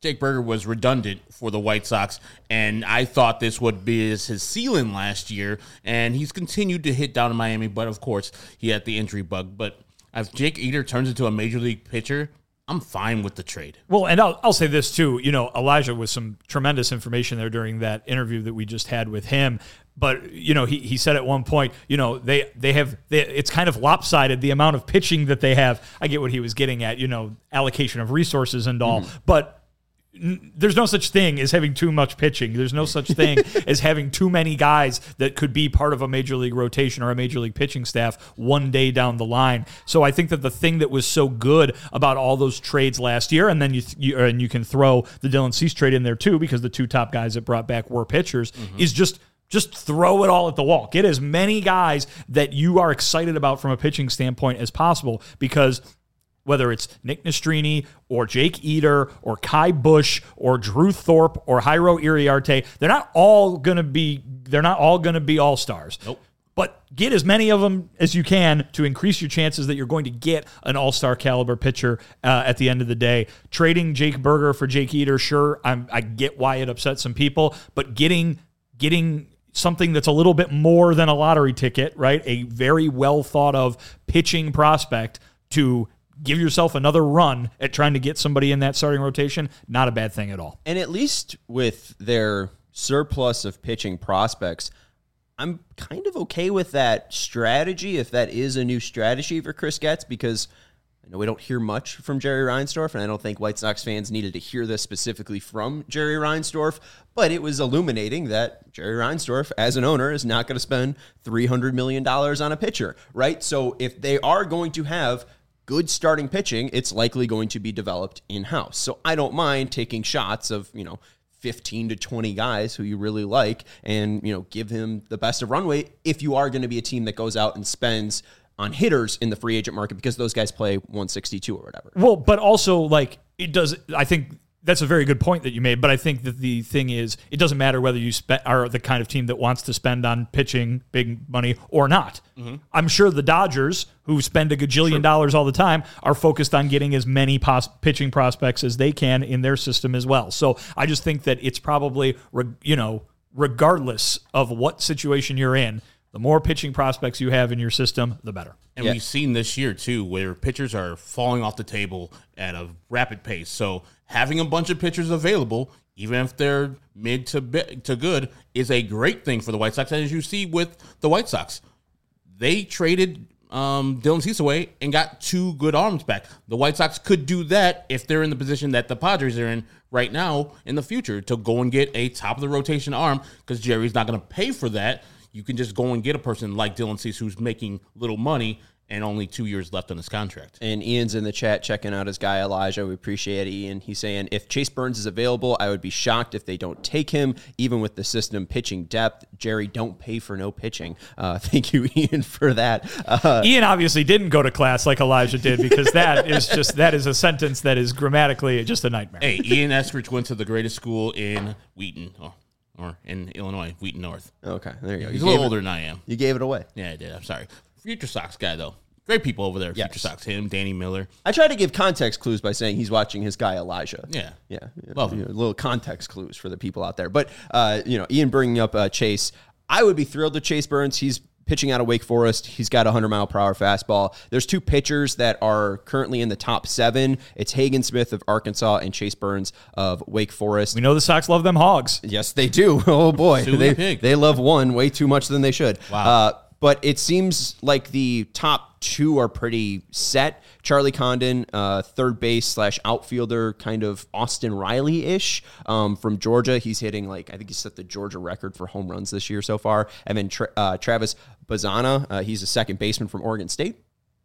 Jake Burger was redundant for the White Sox, and I thought this would be his, his ceiling last year, and he's continued to hit down in Miami, but of course, he had the injury bug. But if Jake Eder turns into a major league pitcher, I'm fine with the trade. Well, and I'll, I'll say this too. You know, Elijah was some tremendous information there during that interview that we just had with him. But, you know, he, he said at one point, you know, they, they have, they, it's kind of lopsided, the amount of pitching that they have. I get what he was getting at, you know, allocation of resources and all. Mm-hmm. But there's no such thing as having too much pitching. There's no such thing as having too many guys that could be part of a major league rotation or a major league pitching staff one day down the line. So I think that the thing that was so good about all those trades last year, and then you, you and you can throw the Dylan Cease trade in there too, because the two top guys that brought back were pitchers, mm-hmm. is just just throw it all at the wall. Get as many guys that you are excited about from a pitching standpoint as possible, because whether it's Nick Nastrini or Jake Eder or Kai Bush or Drew Thorpe or Jairo Iriarte, they're not all going to be they're not all going to be all-stars. Nope. But get as many of them as you can to increase your chances that you're going to get an all-star caliber pitcher uh, at the end of the day. Trading Jake Burger for Jake Eder, sure, I'm, I get why it upset some people, but getting getting something that's a little bit more than a lottery ticket, right? A very well thought of pitching prospect to give yourself another run at trying to get somebody in that starting rotation, not a bad thing at all. And at least with their surplus of pitching prospects, I'm kind of okay with that strategy, if that is a new strategy for Chris Getz, because I know we don't hear much from Jerry Reinsdorf, and I don't think White Sox fans needed to hear this specifically from Jerry Reinsdorf, but it was illuminating that Jerry Reinsdorf, as an owner, is not going to spend three hundred million dollars on a pitcher, right? So if they are going to have good starting pitching, it's likely going to be developed in-house. So I don't mind taking shots of, you know, fifteen to twenty guys who you really like and, you know, give him the best of runway if you are going to be a team that goes out and spends on hitters in the free agent market, because those guys play one sixty-two or whatever. Well, but also, like, it does, I think that's a very good point that you made, but I think that the thing is, it doesn't matter whether you spe- are the kind of team that wants to spend on pitching big money or not. Mm-hmm. I'm sure the Dodgers, who spend a gajillion sure. dollars all the time, are focused on getting as many pos- pitching prospects as they can in their system as well. So I just think that it's probably, you know, regardless of what situation you're in, the more pitching prospects you have in your system, the better. And yeah. we've seen this year, too, where pitchers are falling off the table at a rapid pace. So having a bunch of pitchers available, even if they're mid to bi- to good, is a great thing for the White Sox. And as you see with the White Sox, they traded um, Dylan Cease away and got two good arms back. The White Sox could do that if they're in the position that the Padres are in right now in the future, to go and get a top-of-the-rotation arm, because Jerry's not going to pay for that. You can just go and get a person like Dylan Cease who's making little money and only two years left on his contract. And Ian's in the chat checking out his guy Elijah. We appreciate it, Ian. He's saying, if Chase Burns is available, I would be shocked if they don't take him, even with the system pitching depth. Jerry, don't pay for no pitching. Uh, thank you, Ian, for that. Uh, Ian obviously didn't go to class like Elijah did, because that is just that is a sentence that is grammatically just a nightmare. Hey, Ian Eskridge went to the greatest school in Wheaton. Oh. Or in Illinois, Wheaton North. Okay, there you go. He's you a little it, older than I am. You gave it away. Yeah, I did. I'm sorry. Future Sox guy, though. Great people over there. Yes. Future Sox. Him, Danny Miller. I try to give context clues by saying he's watching his guy Elijah. Yeah. Yeah. Love you him. know, little context clues for the people out there. But, uh, you know, Ian bringing up uh, Chase, I would be thrilled with Chase Burns. He's pitching out of Wake Forest. He's got a hundred mile per hour fastball. There's two pitchers that are currently in the top seven. It's Hagen Smith of Arkansas and Chase Burns of Wake Forest. We know the Sox love them hogs. Yes, they do. Oh, boy. Sue They, the pig. they love one way too much than they should. Wow. Uh, but it seems like the top two are pretty set. Charlie Condon, uh, third base slash outfielder, kind of Austin Riley-ish um, from Georgia. He's hitting, like, I think he set the Georgia record for home runs this year so far. And then tra- uh, Travis Bazana, uh, he's a second baseman from Oregon State.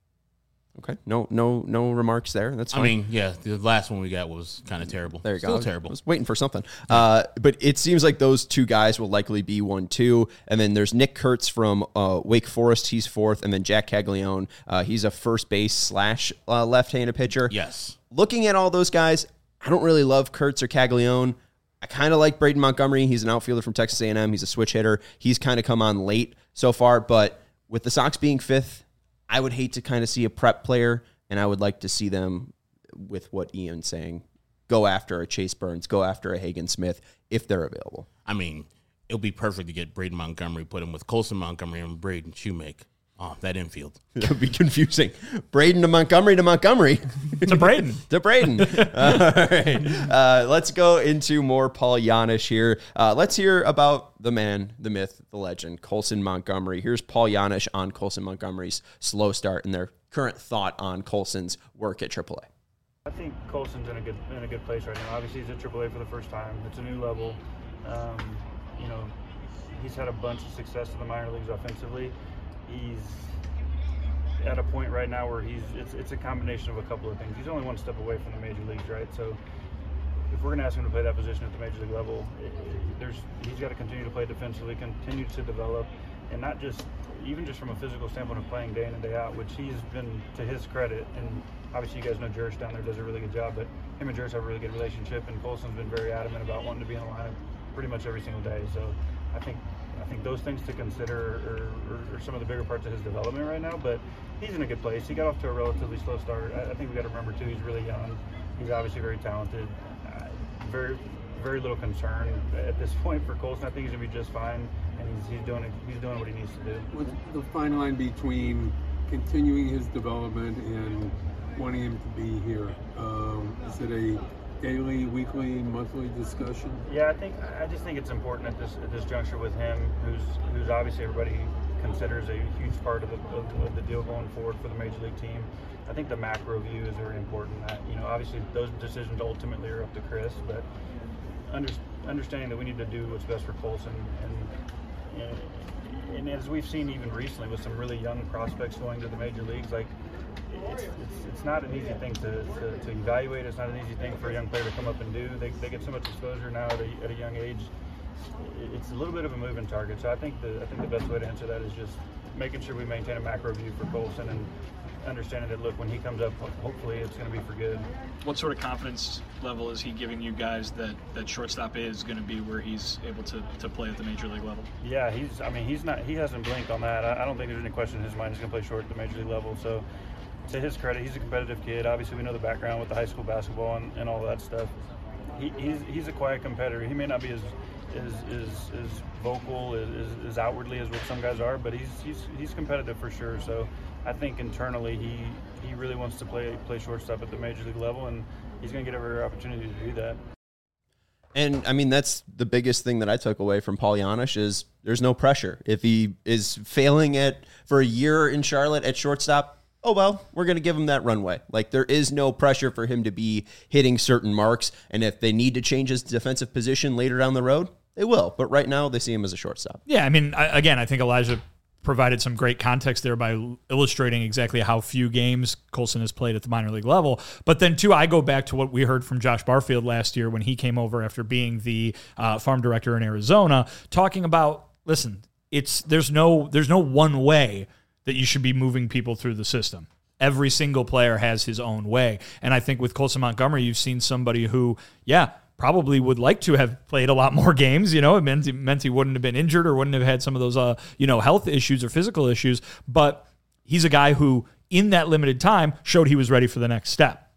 Okay, no, no, no remarks there. That's fine. I mean, yeah, the last one we got was kind of terrible. There you Still go. terrible. I was waiting for something. Uh, but it seems like those two guys will likely be one, two. And then there's Nick Kurtz from uh, Wake Forest. He's fourth. And then Jack Caglione. Uh, he's a first base slash uh, left-handed pitcher. Yes. Looking at all those guys, I don't really love Kurtz or Caglione. I kind of like Braden Montgomery. He's an outfielder from Texas A and M. He's a switch hitter. He's kind of come on late so far. But with the Sox being fifth, I would hate to kind of see a prep player. And I would like to see them with what Ian's saying, go after a Chase Burns, go after a Hagen Smith if they're available. I mean, it'll be perfect to get Braden Montgomery, put him with Colson Montgomery and Braden Shoemake. Oh, that infield. That would be confusing. Braden to Montgomery to Montgomery. To Braden. to Braden. uh, all right. Uh, let's go into more Paul Janish here. Uh, let's hear about the man, the myth, the legend, Colson Montgomery. Here's Paul Janish on Colson Montgomery's slow start and their current thought on Colson's work at triple A. I think Colson's in a good in a good place right now. Obviously, he's at triple A for the first time. It's a new level. Um, you know, he's had a bunch of success in the minor leagues offensively. He's at a point right now where he's it's it's a combination of a couple of things. He's only one step away from the major leagues, right? So if we're going to ask him to play that position at the major league level, it, it, there's he's got to continue to play defensively, continue to develop, and not just even just from a physical standpoint of playing day in and day out, which he's been, to his credit, and obviously you guys know Jerish down there does a really good job, but him and Jerish have a really good relationship, and Colson's been very adamant about wanting to be in the lineup pretty much every single day. So I think I think those things to consider are, are, are some of the bigger parts of his development right now, but he's in a good place. He got off to a relatively slow start. I, I think we got to remember too, he's really young. He's obviously very talented. Uh, very, very little concern at this point for Colson. I think he's gonna be just fine, and he's he's doing it, he's doing what he needs to do. What's the fine line between continuing his development and wanting him to be here? Um, is it a daily, weekly, monthly discussion? Yeah, I think I just think it's important at this at this juncture with him, who's who's obviously everybody considers a huge part of the, of, of the deal going forward for the major league team. I think the macro view is very important. That, you know, obviously those decisions ultimately are up to Chris, but under, understanding that we need to do what's best for Colson, and, and and as we've seen even recently with some really young prospects going to the major leagues, like it's it's, it's not an easy thing to, to, to evaluate. It's not an easy thing for a young player to come up and do. They, they get so much exposure now at a, at a young age. It's a little bit of a moving target. So I think the I think the best way to answer that is just making sure we maintain a macro view for Colson and understanding that, look, when he comes up, hopefully it's going to be for good. What sort of confidence level is he giving you guys that, that shortstop is going to be where he's able to, to play at the major league level? Yeah, he's. I mean, he's not. He hasn't blinked on that. I, I don't think there's any question in his mind he's going to play short at the major league level. So, to his credit, he's a competitive kid. Obviously, we know the background with the high school basketball and, and all that stuff. He, he's he's a quiet competitor. He may not be as as as, as vocal as, as outwardly as what some guys are, but he's he's he's competitive for sure. So I think internally he he really wants to play play shortstop at the major league level, and he's going to get every opportunity to do that. And I mean, that's the biggest thing that I took away from Paul Janish is there's no pressure. If he is failing at for a year in Charlotte at shortstop, oh, well, we're going to give him that runway. Like, there is no pressure for him to be hitting certain marks. And if they need to change his defensive position later down the road, they will. But right now, they see him as a shortstop. Yeah, I mean, I, again, I think Elijah provided some great context there by illustrating exactly how few games Colson has played at the minor league level. But then, too, I go back to what we heard from Josh Barfield last year when he came over after being the uh, farm director in Arizona, talking about, listen, it's there's no there's no one way that you should be moving people through the system. Every single player has his own way. And I think with Colson Montgomery, you've seen somebody who, yeah, probably would like to have played a lot more games. You know, it meant, it meant he wouldn't have been injured or wouldn't have had some of those, uh, you know, health issues or physical issues. But he's a guy who, in that limited time, showed he was ready for the next step.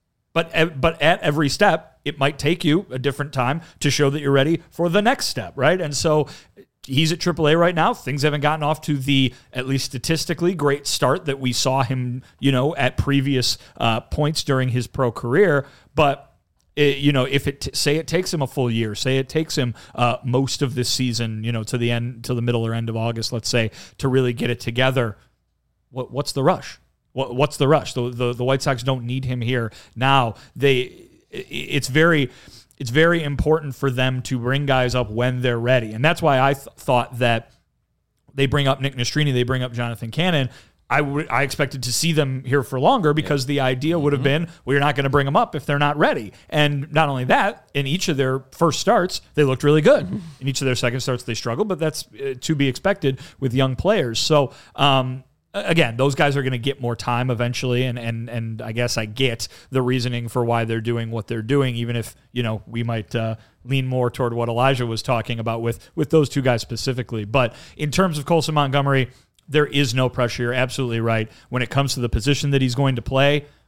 But, but at every step, it might take you a different time to show that you're ready for the next step, right? And so he's at triple A right now. Things haven't gotten off to the, at least statistically, great start that we saw him, you know, at previous uh, points during his pro career. But, it, you know, if it, t- say it takes him a full year, say it takes him uh, most of this season, you know, to the end, to the middle or end of August, let's say, to really get it together, what, what's the rush? What, what's the rush? The, the, the White Sox don't need him here now. They, it's very... It's very important for them to bring guys up when they're ready. And that's why I th- thought that they bring up Nick Nastrini, they bring up Jonathan Cannon. I, w- I expected to see them here for longer because yeah. the idea would have mm-hmm. been, well, you're not going to bring them up if they're not ready. And not only that, in each of their first starts, they looked really good. Mm-hmm. In each of their second starts, they struggled, but that's uh, to be expected with young players. So, um, again, those guys are going to get more time eventually, and, and and I guess I get the reasoning for why they're doing what they're doing, even if, you know, we might uh, lean more toward what Elijah was talking about with, with those two guys specifically. But in terms of Colson Montgomery, there is no pressure. You're absolutely right. When it comes to the position that he's going to play,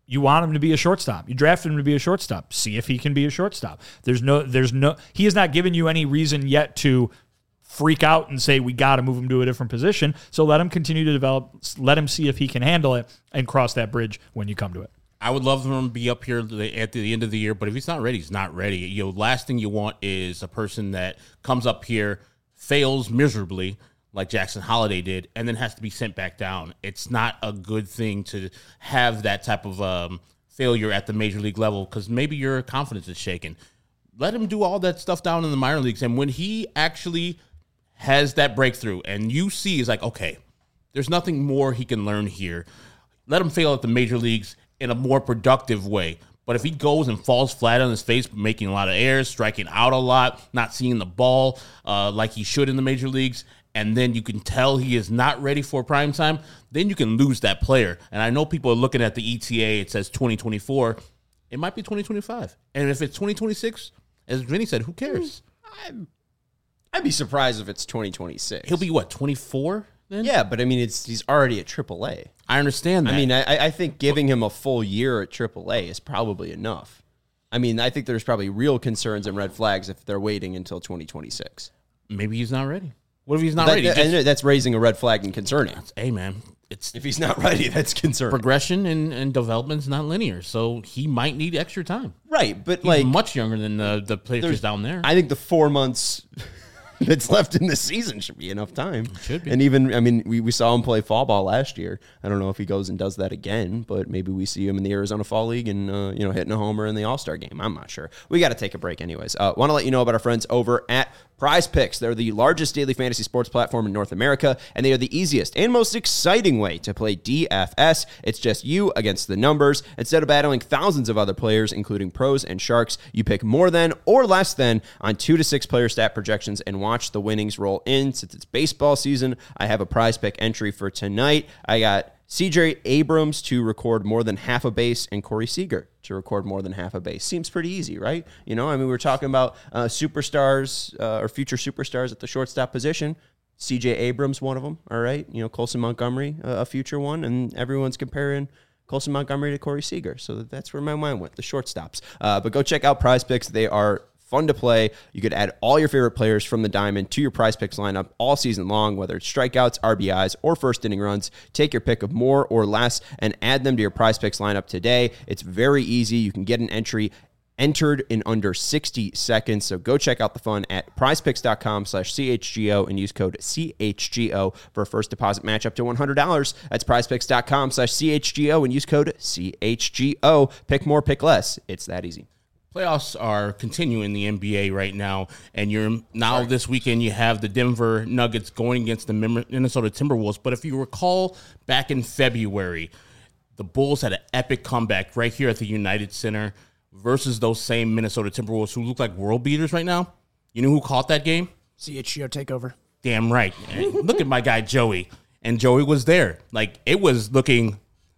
you want him to be a shortstop. You drafted him to be a shortstop. See if he can be a shortstop. There's no, there's no, he has not given you any reason yet to freak out and say, we got to move him to a different position. So let him continue to develop. Let him see if he can handle it and cross that bridge when you come to it. I would love for him to be up here at the end of the year, but if he's not ready, he's not ready. You know, last thing you want is a person that comes up here, fails miserably, like Jackson Holiday did, and then has to be sent back down. It's not a good thing to have that type of um, failure at the major league level because maybe your confidence is shaken. Let him do all that stuff down in the minor leagues, and when he actually has that breakthrough and you see is like, okay, there's nothing more he can learn here, let him fail at the major leagues in a more productive way. But if he goes and falls flat on his face, making a lot of errors, striking out a lot, not seeing the ball uh, like he should in the major leagues, and then you can tell he is not ready for prime time, then you can lose that player. And I know people are looking at the E T A, it says twenty twenty-four. It might be twenty twenty-five. And if it's twenty twenty-six, as Vinny said, who cares? I'd, I'd be surprised if it's twenty twenty-six. He'll be, what, twenty-four then? Yeah, but I mean, it's he's already at triple A. I understand that. I mean, I, I think giving him a full year at triple A is probably enough. I mean, I think there's probably real concerns and red flags if they're waiting until twenty twenty-six. Maybe he's not ready. What if he's not that, ready? That, Just, that's raising a red flag and concerning. hey, man, it's If he's not ready, that's concerning. progression and, and development's not linear, so he might need extra time. Right, but He's like much younger than the, the there's- players down there. I think the four months that's left in the season should be enough time. Should be. And even, I mean, we, we saw him play fall ball last year. I don't know if he goes and does that again, but maybe we see him in the Arizona Fall League and, uh, you know, hitting a homer in the All-Star game. I'm not sure. We got to take a break anyways. Uh, want to let you know about our friends over at Prize Picks. They're the largest daily fantasy sports platform in North America, and they are the easiest and most exciting way to play D F S. It's just you against the numbers. Instead of battling thousands of other players, including pros and sharks, you pick more than or less than on two to six player stat projections and watch the winnings roll in. Since it's baseball season, I have a Prize Pick entry for tonight. I got C J Abrams to record more than half a base and Corey Seager to record more than half a base. Seems pretty easy, right? You know, I mean, we were talking about uh, superstars uh, or future superstars at the shortstop position. C J Abrams, one of them, all right? You know, Colson Montgomery, uh, a future one, and everyone's comparing Colson Montgomery to Corey Seager. So that's where my mind went, the shortstops. Uh, but go check out Prize Picks. They are fun to play. You could add all your favorite players from the diamond to your Prize Picks lineup all season long, whether it's strikeouts, R B Is, or first inning runs. Take your pick of more or less and add them to your Prize Picks lineup today. It's very easy. You can get an entry entered in under sixty seconds. So go check out the fun at prizepicks.com slash CHGO and use code C H G O for a first deposit match up to one hundred dollars. That's prizepicks.com slash CHGO and use code C H G O. Pick more, pick less. It's that easy. Playoffs are continuing in the N B A right now, and you're now Sorry. This weekend you have the Denver Nuggets going against the Minnesota Timberwolves. But if you recall, back in February, the Bulls had an epic comeback right here at the United Center versus those same Minnesota Timberwolves who look like world beaters right now. You know who caught that game? C H G O takeover. Damn right. Look at my guy Joey, and Joey was there. Like, it was looking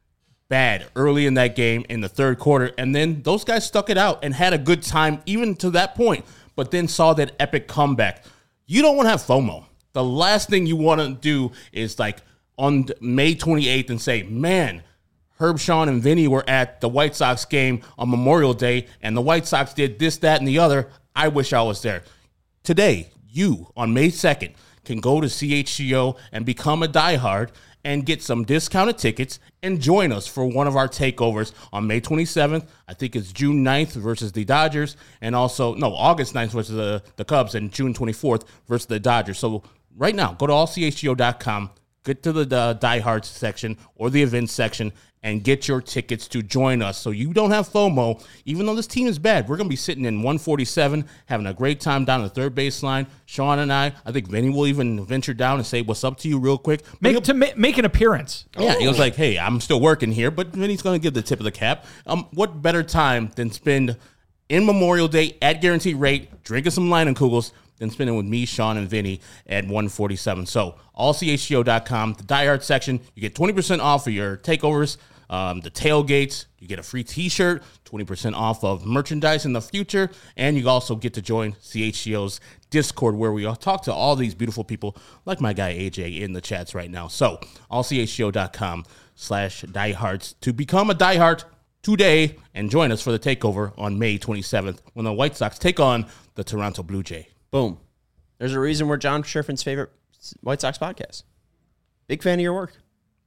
bad early in that game in the third quarter, and then those guys stuck it out and had a good time even to that point, but then saw that epic comeback. You don't want to have FOMO. The last thing you want to do is like on May twenty-eighth and say, man, Herb, Sean, and Vinny were at the White Sox game on Memorial Day, and the White Sox did this, that, and the other. I wish I was there. Today, you, on May second, can go to C H G O and become a diehard and get some discounted tickets and join us for one of our takeovers on May twenty-seventh. I think it's June ninth versus the Dodgers, and also, no, August ninth versus the, the Cubs, and June twenty-fourth versus the Dodgers. So right now, go to all C H G O dot com, get to the, the diehards section or the events section, and get your tickets to join us so you don't have FOMO. Even though this team is bad, we're going to be sitting in one forty-seven, having a great time down the third baseline. Sean and I, I think Vinny will even venture down and say what's up to you real quick. Make to ma- make an appearance. Yeah, he was like, hey, I'm still working here, but Vinny's going to give the tip of the cap. Um, what better time than spend in Memorial Day at guaranteed rate, drinking some Leinenkugels, than spending with me, Sean, and Vinny at one forty-seven. So all C H G O dot com, the diehard section, you get twenty percent off of your takeovers. Um, the tailgates, you get a free t-shirt, twenty percent off of merchandise in the future, and you also get to join C H G O's Discord where we all talk to all these beautiful people like my guy A J in the chats right now. So all C H G O dot com slash diehards to become a diehard today and join us for the takeover on May twenty-seventh when the White Sox take on the Toronto Blue Jay. Boom. There's a reason we're John Schiffrin's favorite White Sox podcast. Big fan of your work.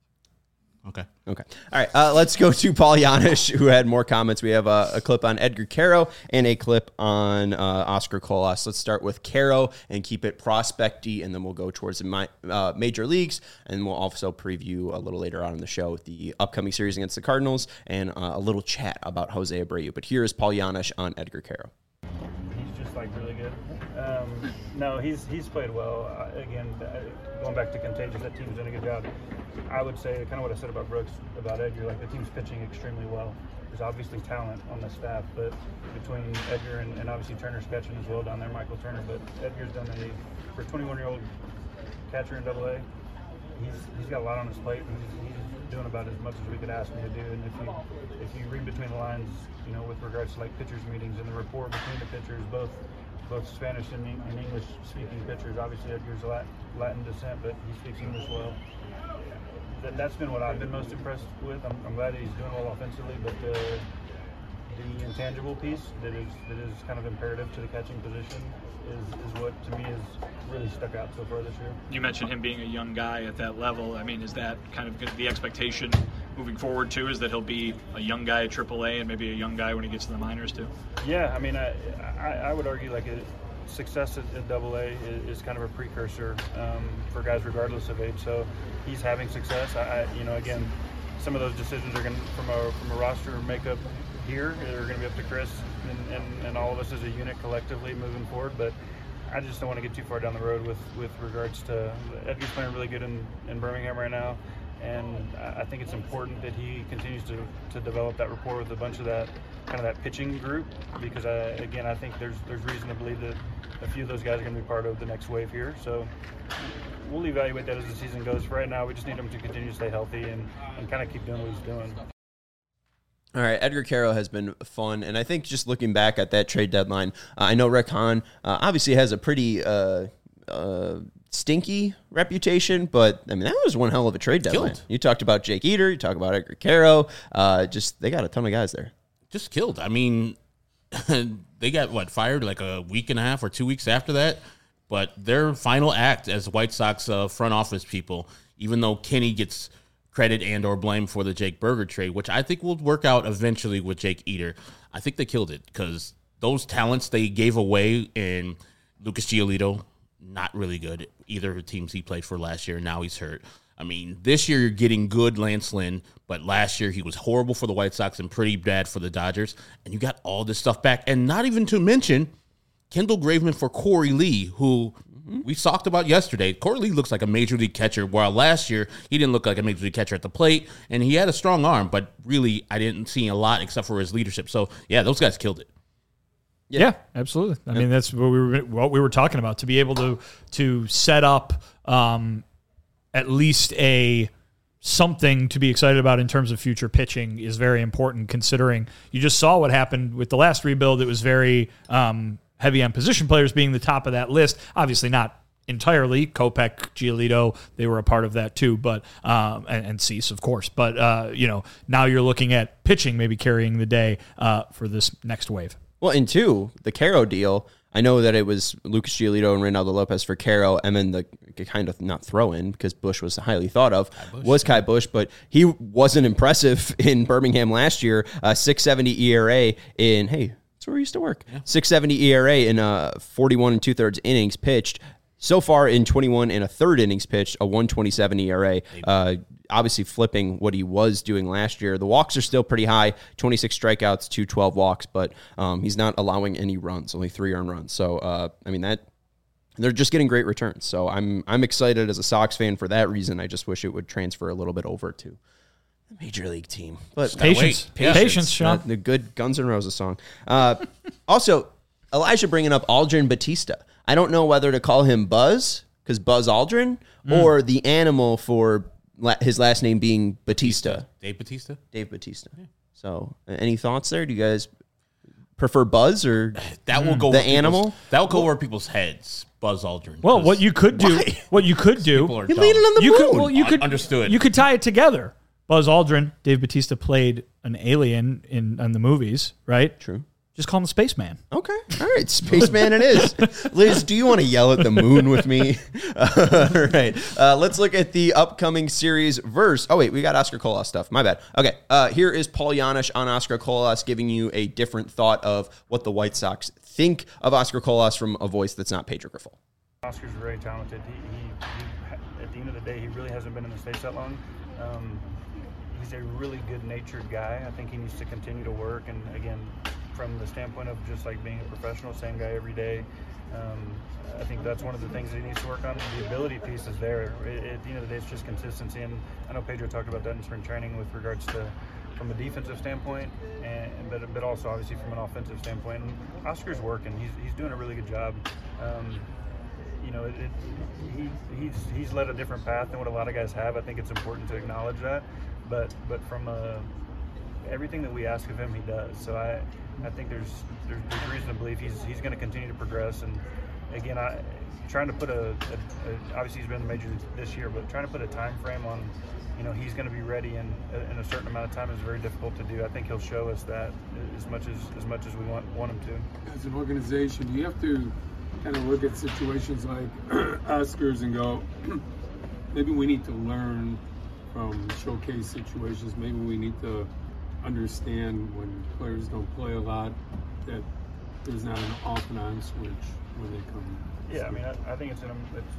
Okay. Okay. All right. Uh, let's go to Paul Janish, who had more comments. We have a, a clip on Edgar Quero and a clip on uh, Oscar Colas. Let's start with Quero and keep it prospect-y, and then we'll go towards the mi- uh, major leagues, and we'll also preview a little later on in the show the upcoming series against the Cardinals and uh, a little chat about Jose Abreu. But here is Paul Janish on Edgar Quero. He's just like really good. Um, no, he's he's played well. Uh, again, uh, going back to Contagious, that team's doing a good job. I would say kind of what I said about Brooks, about Edgar, like the team's pitching extremely well. There's obviously talent on the staff, but between Edgar and, and obviously Turner's catching as well down there, Michael Turner, but Edgar's done a, for a twenty-one-year-old catcher in double A, he's he's got a lot on his plate, and he's, he's doing about as much as we could ask him to do. And if you if you read between the lines, you know, with regards to like pitchers meetings and the rapport between the pitchers, both both Spanish and, and English-speaking pitchers. Obviously, Edgar's Latin descent, but he speaks English well. That, that's been what I've been most impressed with. I'm, I'm glad that he's doing well offensively, but the, the intangible piece that is that is kind of imperative to the catching position is, is what, to me, has really stuck out so far this year. You mentioned him being a young guy at that level. I mean, is that kind of the expectation moving forward, too, is that he'll be a young guy at triple A and maybe a young guy when he gets to the minors, too? Yeah, I mean, I, I, I would argue, like, a, success at, at double A is, is kind of a precursor um, for guys regardless of age. So he's having success. I, I you know, again, some of those decisions are going to, from a from a roster makeup here, they're going to be up to Chris and, and, and all of us as a unit collectively moving forward. But I just don't want to get too far down the road with, with regards to Edgar's playing really good in, in Birmingham right now. And I think it's important that he continues to, to develop that rapport with a bunch of that kind of that pitching group, because I, again, I think there's there's reason to believe that a few of those guys are going to be part of the next wave here. So we'll evaluate that as the season goes. For right now, we just need him to continue to stay healthy and, and kind of keep doing what he's doing. All right, Edgar Quero has been fun, and I think just looking back at that trade deadline, uh, I know Rick Hahn uh, obviously has a pretty uh, uh, stinky reputation, but I mean that was one hell of a trade deadline. Killed. You talked about Jake Eater, you talked about Edgar Quero, uh, just they got a ton of guys there. Just killed. I mean, they got, what, fired like a week and a half or two weeks after that? But their final act as White Sox uh, front office people, even though Kenny gets credit and or blame for the Jake Burger trade, which I think will work out eventually with Jake Eater, I think they killed it because those talents they gave away in Lucas Giolito, not really good. Either of the teams he played for last year, now he's hurt. I mean, this year you're getting good Lance Lynn, but last year he was horrible for the White Sox and pretty bad for the Dodgers, and you got all this stuff back. And not even to mention Kendall Graveman for Corey Lee, who mm-hmm. we talked about yesterday. Corey Lee looks like a major league catcher, while last year he didn't look like a major league catcher at the plate, and he had a strong arm, but really I didn't see a lot except for his leadership. So, yeah, those guys killed it. Yeah, yeah absolutely. I yeah. mean, that's what we were what we were talking about, to be able to to set up um, – at least a something to be excited about in terms of future pitching is very important, considering you just saw what happened with the last rebuild. It was very um, heavy on position players being the top of that list. Obviously not entirely. Kopech, Giolito, they were a part of that too, but um, and, and Cease, of course. But, uh, you know, now you're looking at pitching maybe carrying the day uh, for this next wave. Well, and two, the Quero deal, I know that it was Lucas Giolito and Reynaldo Lopez for Quero, and then the kind of not throw-in, because Bush was highly thought of, Bush, was Kai Bush, but he wasn't impressive in Birmingham last year. Uh, six seventy E R A in, hey, that's where he used to work. Yeah. six seventy E R A in uh, forty-one and two-thirds innings pitched. So far in twenty-one and a third innings pitched, a one twenty-seven E R A. Uh, obviously flipping what he was doing last year. The walks are still pretty high, twenty-six strikeouts to twelve walks, but um, he's not allowing any runs, only three earned runs. So, uh, I mean, that they're just getting great returns. So I'm I'm excited as a Sox fan for that reason. I just wish it would transfer a little bit over to the Major League team. But patience, patience, patience Sean. The, the good Guns N' Roses song. Uh, also, Elijah bringing up Aldrin Batista. I don't know whether to call him Buzz, because Buzz Aldrin, mm. or the animal for la- his last name being Batista. Dave Batista? Dave Batista. Yeah. So, uh, any thoughts there? Do you guys prefer Buzz or that will go the animal? That will go over people's heads. Buzz Aldrin. Well, what you could do, why? what you could do, you're leaning on the you moon. Could, well, you could understood. You could tie it together. Buzz Aldrin, Dave Bautista played an alien in, in the movies, right? True. Just call him Spaceman. Okay. All right. Spaceman it is. Liz, do you want to yell at the moon with me? Uh, all right. Uh, let's look at the upcoming series verse. Oh, wait. We got Oscar Colas stuff. My bad. Okay. Uh, here is Paul Janish on Oscar Colas giving you a different thought of what the White Sox think of Oscar Colas from a voice that's not Pedro Grifol. Oscar's very talented. He, he, he, at the end of the day, he really hasn't been in the States that long. Um, he's a really good-natured guy. I think he needs to continue to work. And, again, from the standpoint of just like being a professional, same guy every day. Um, I think that's one of the things that he needs to work on. The ability piece is there. It, at the end of the day, it's just consistency. And I know Pedro talked about that in spring training with regards to from a defensive standpoint, and but, but also obviously from an offensive standpoint. And Oscar's working. He's he's doing a really good job. Um, you know, it, it, he he's he's led a different path than what a lot of guys have. I think it's important to acknowledge that. But but from a, everything that we ask of him, he does. So I. I think there's, there's there's reason to believe he's he's going to continue to progress. And again, I trying to put a, a, a obviously he's been in the major this year, but trying to put a time frame on, you know, he's going to be ready in in a certain amount of time is very difficult to do. I think he'll show us that as much as as much as we want want him to. As an organization, you have to kind of look at situations like Oscars and go, maybe we need to learn from showcase situations. Maybe we need to understand when players don't play a lot that there's not an off and on switch when they come. Yeah, I mean, I, I think it's, an, it's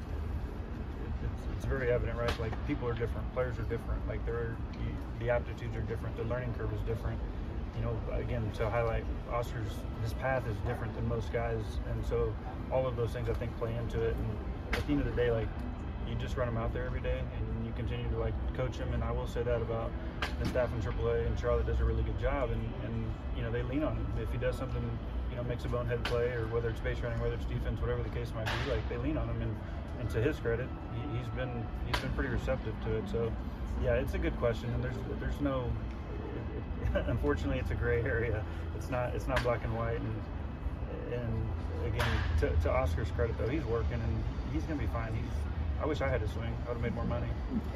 it's it's very evident, right? Like people are different, players are different. Like they're the aptitudes are different, the learning curve is different. You know, again, to highlight Oscar's, his path is different than most guys, and so all of those things I think play into it. And at the end of the day, like you just run him out there every day, and you continue to like coach him. And I will say that about the staff in triple A, and Charlotte does a really good job. And, and you know, they lean on him if he does something, you know, makes a bonehead play, or whether it's base running, whether it's defense, whatever the case might be. Like they lean on him, and, and to his credit, he, he's been he's been pretty receptive to it. So yeah, it's a good question, and there's there's no. It, it, unfortunately, it's a gray area. It's not it's not black and white. And and again, to, to Oscar's credit though, he's working and he's gonna be fine. He's I wish I had to swing. I would have made more money.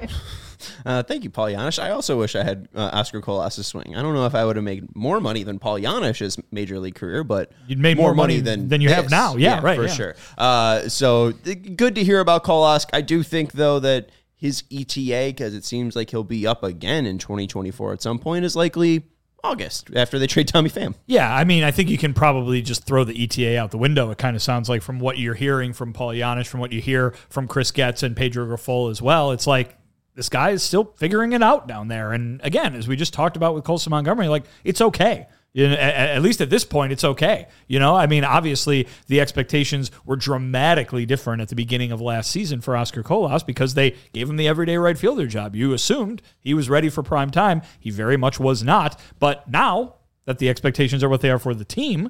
uh, thank you, Paul Janish. I also wish I had uh, Oscar Colas' swing. I don't know if I would have made more money than Paul Janish's major league career, but you'd made more, more money, money than than you this. have now. Yeah, yeah right, for yeah. sure. Uh, so good to hear about Colas. I do think though that his E T A, because it seems like he'll be up again in twenty twenty-four at some point, is likely August after they trade Tommy Pham. Yeah, I mean, I think you can probably just throw the E T A out the window. It kind of sounds like from what you're hearing from Paul Janish, from what you hear from Chris Getz and Pedro Grifol as well. It's like this guy is still figuring it out down there. And again, as we just talked about with Colson Montgomery, like it's okay. You know, at, at least at this point, it's okay. You know, I mean, obviously the expectations were dramatically different at the beginning of last season for Oscar Colas because they gave him the everyday right fielder job. You assumed he was ready for prime time. He very much was not. But now that the expectations are what they are for the team,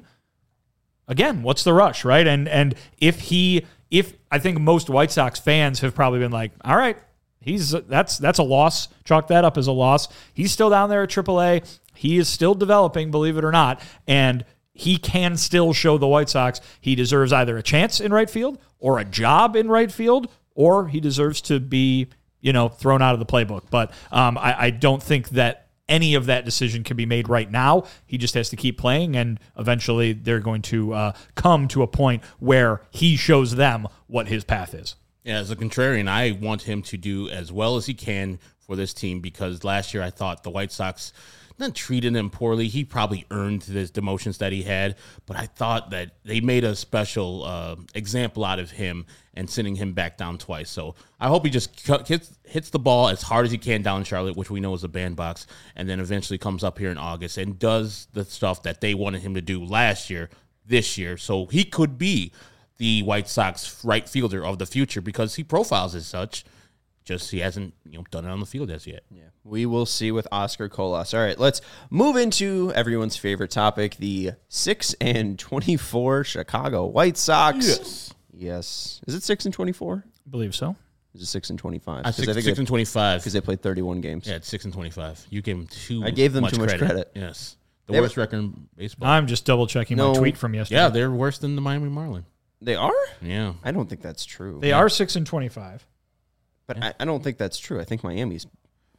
again, what's the rush, right? And and if he, if I think most White Sox fans have probably been like, all right, he's that's that's a loss. Chalk that up as a loss. He's still down there at triple A. He is still developing, believe it or not, and he can still show the White Sox he deserves either a chance in right field or a job in right field, or he deserves to be, you know, thrown out of the playbook. But um, I, I don't think that any of that decision can be made right now. He just has to keep playing, and eventually they're going to uh, come to a point where he shows them what his path is. Yeah, as a contrarian, I want him to do as well as he can for this team because last year I thought the White Sox not treated him poorly. He probably earned the demotions that he had, but I thought that they made a special uh, example out of him and sending him back down twice. So I hope he just hits, hits the ball as hard as he can down in Charlotte, which we know is a bandbox, and then eventually comes up here in August and does the stuff that they wanted him to do last year, this year. So he could be the White Sox right fielder of the future because he profiles as such. Just he hasn't, you know, done it on the field as yet. Yeah, we will see with Oscar Colas. All right, let's move into everyone's favorite topic: the six and twenty-four Chicago White Sox. Yes, yes. Is it six and twenty-four? I believe so. Is it six and twenty-five? I six, I think six and twenty-five because they played thirty-one games. Yeah, it's six and twenty-five. You gave them too. I gave them much too much credit. credit. Yes, the they worst were, record in baseball. I'm just double checking no, my tweet from yesterday. Yeah, they're worse than the Miami Marlins. They are? Yeah, I don't think that's true. They yeah. are six and twenty-five. But yeah. I, I don't think that's true. I think Miami's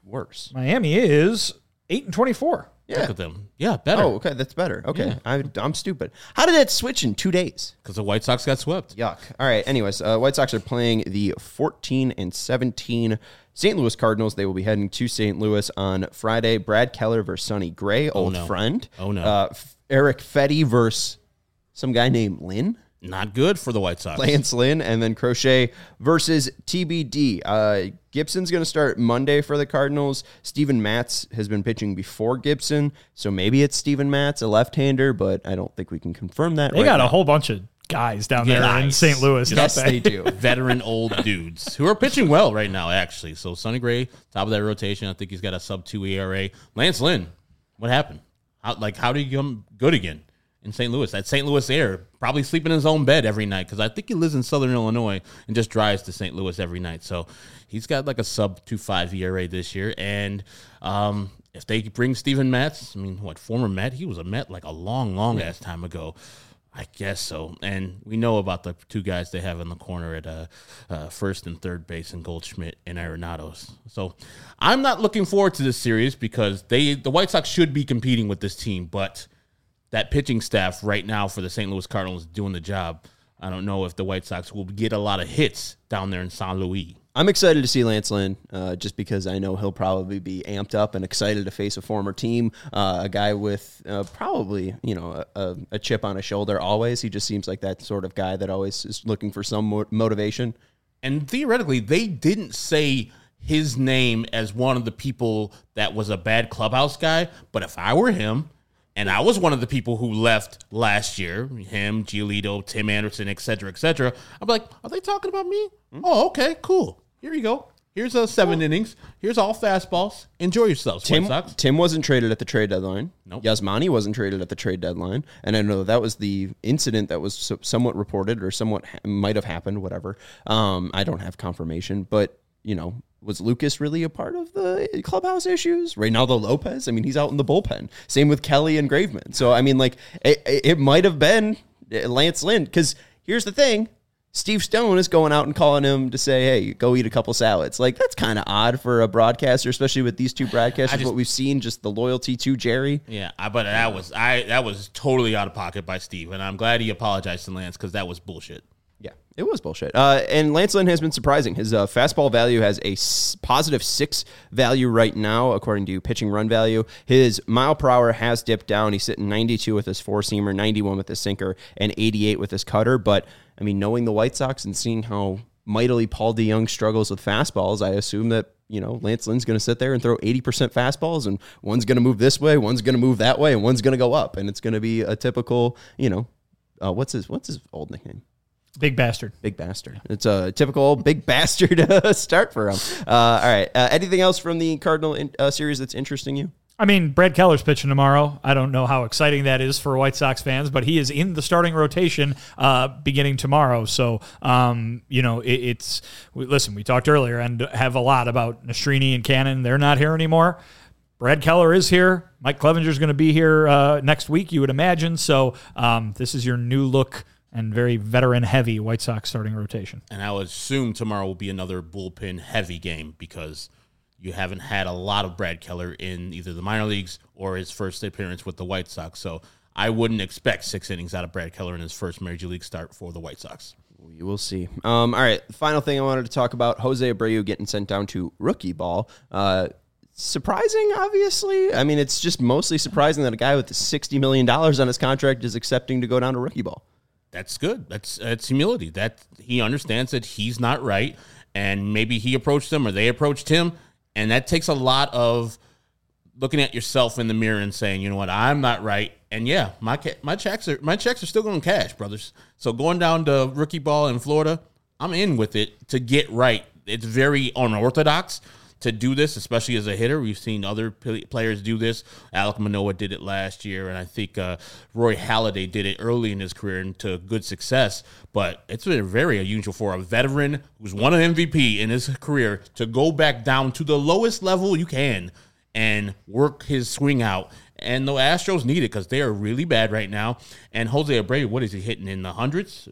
worse? Miami is eight and twenty-four. Yeah. Look at them. Yeah, better. Oh, okay, that's better. Okay, Yeah. I, I'm stupid. How did that switch in two days? Because the White Sox got swept. Yuck. All right. Anyways, uh, White Sox are playing the fourteen and seventeen Saint Louis Cardinals. They will be heading to Saint Louis on Friday. Brad Keller versus Sonny Gray, old no. friend. Oh, no. Uh, F- Eric Fetty versus some guy named Lynn. Not good for the White Sox. Lance Lynn, and then Crochet versus T B D. Uh, Gibson's going to start Monday for the Cardinals. Steven Matz has been pitching before Gibson, so maybe it's Steven Matz, a left-hander, but I don't think we can confirm that They right got now. a whole bunch of guys down there in Guys. Saint Louis. Yes, don't they? they do. Veteran old dudes who are pitching well right now, actually. So Sonny Gray, top of that rotation. I think he's got a sub two E R A. Lance Lynn, what happened? How, like, how did he become good again in Saint Louis? That Saint Louis air, probably sleeping in his own bed every night because I think he lives in Southern Illinois and just drives to Saint Louis every night. So he's got like a sub two five E R A this year. And um, if they bring Steven Matz, I mean, what, former Met? He was a Met like a long, long ass time ago. I guess so. And we know about the two guys they have in the corner at uh, uh, first and third base in Goldschmidt and Arenados. So I'm not looking forward to this series because they the White Sox should be competing with this team, but that pitching staff right now for the Saint Louis Cardinals is doing the job. I don't know if the White Sox will get a lot of hits down there in Saint Louis. I'm excited to see Lance Lynn, uh, just because I know he'll probably be amped up and excited to face a former team, uh, a guy with uh, probably, you know, a, a chip on his shoulder always. He just seems like that sort of guy that always is looking for some mo- motivation. And theoretically, they didn't say his name as one of the people that was a bad clubhouse guy, but if I were him, and I was one of the people who left last year, him, Giolito, Tim Anderson, et cetera, et cetera, I'd be like, are they talking about me? Mm-hmm. Oh, okay, cool. Here you go. Here's a seven oh. innings. Here's all fastballs. Enjoy yourselves, Tim, White Sox. Tim wasn't traded at the trade deadline. Nope. Yasmani wasn't traded at the trade deadline. And I know that was the incident that was so, somewhat reported or somewhat ha- might have happened, whatever. Um, I don't have confirmation. But, you know, was Lucas really a part of the clubhouse issues? Reynaldo Lopez? I mean, he's out in the bullpen. Same with Kelly and Graveman. So, I mean, like, it, it might have been Lance Lynn. Because here's the thing. Steve Stone is going out and calling him to say, hey, go eat a couple salads. Like, that's kind of odd for a broadcaster, especially with these two broadcasters, just, what we've seen, just the loyalty to Jerry. Yeah, I, but that was I that was totally out of pocket by Steve, and I'm glad he apologized to Lance because that was bullshit. Yeah, it was bullshit. Uh, and Lance Lynn has been surprising. His uh, fastball value has a s- positive six value right now, according to pitching run value. His mile per hour has dipped down. He's sitting ninety-two with his four-seamer, ninety-one with his sinker, and eighty-eight with his cutter. But, I mean, knowing the White Sox and seeing how mightily Paul DeJong struggles with fastballs, I assume that, you know, Lance Lynn's going to sit there and throw eighty percent fastballs, and one's going to move this way, one's going to move that way, and one's going to go up. And it's going to be a typical, you know, uh, what's his what's his old nickname? Big bastard. Big bastard. It's a typical big bastard uh, start for him. Uh, all right. Uh, anything else from the Cardinal in, uh, series that's interesting you? I mean, Brad Keller's pitching tomorrow. I don't know how exciting that is for White Sox fans, but he is in the starting rotation uh, beginning tomorrow. So, um, you know, it, it's we, listen. We talked earlier and have a lot about Nastrini and Cannon. They're not here anymore. Brad Keller is here. Mike Clevenger's going to be here uh, next week, you would imagine. So, um, this is your new look and very veteran-heavy White Sox starting rotation. And I would assume tomorrow will be another bullpen-heavy game because you haven't had a lot of Brad Keller in either the minor leagues or his first appearance with the White Sox. So I wouldn't expect six innings out of Brad Keller in his first Major League start for the White Sox. We will see. Um, all right, the final thing I wanted to talk about, Jose Abreu getting sent down to rookie ball. Uh, surprising, obviously. I mean, it's just mostly surprising that a guy with sixty million dollars on his contract is accepting to go down to rookie ball. That's good. That's that's humility. That he understands that he's not right, and maybe he approached them or they approached him, and that takes a lot of looking at yourself in the mirror and saying, you know what, I'm not right, and yeah, my my checks are my checks are still going to cash, brothers. So going down to rookie ball in Florida, I'm in with it to get right. It's very unorthodox to do this, especially as a hitter. We've seen other players do this. Alek Manoah did it last year, and I think uh, Roy Halladay did it early in his career and to good success. But it's been very unusual for a veteran who's won an M V P in his career to go back down to the lowest level you can and work his swing out. And the Astros need it because they are really bad right now. And Jose Abreu, what is he hitting in the hundreds?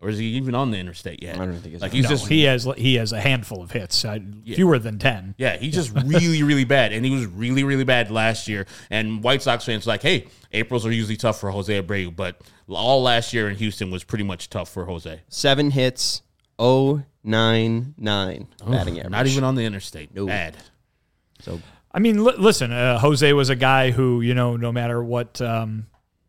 Or is he even on the interstate yet? I don't think he's like on. he's No, just he has he has a handful of hits, uh, fewer than ten. yeah, he's just really, really bad. And he was really, really bad last year. And White Sox fans are like, hey, Aprils are usually tough for Jose Abreu, but all last year in Houston was pretty much tough for Jose. Seven hits, oh nine nine batting average. Not even on the interstate. No. Bad. So I mean, li- listen, uh, Jose was a guy who, you know, no matter what um,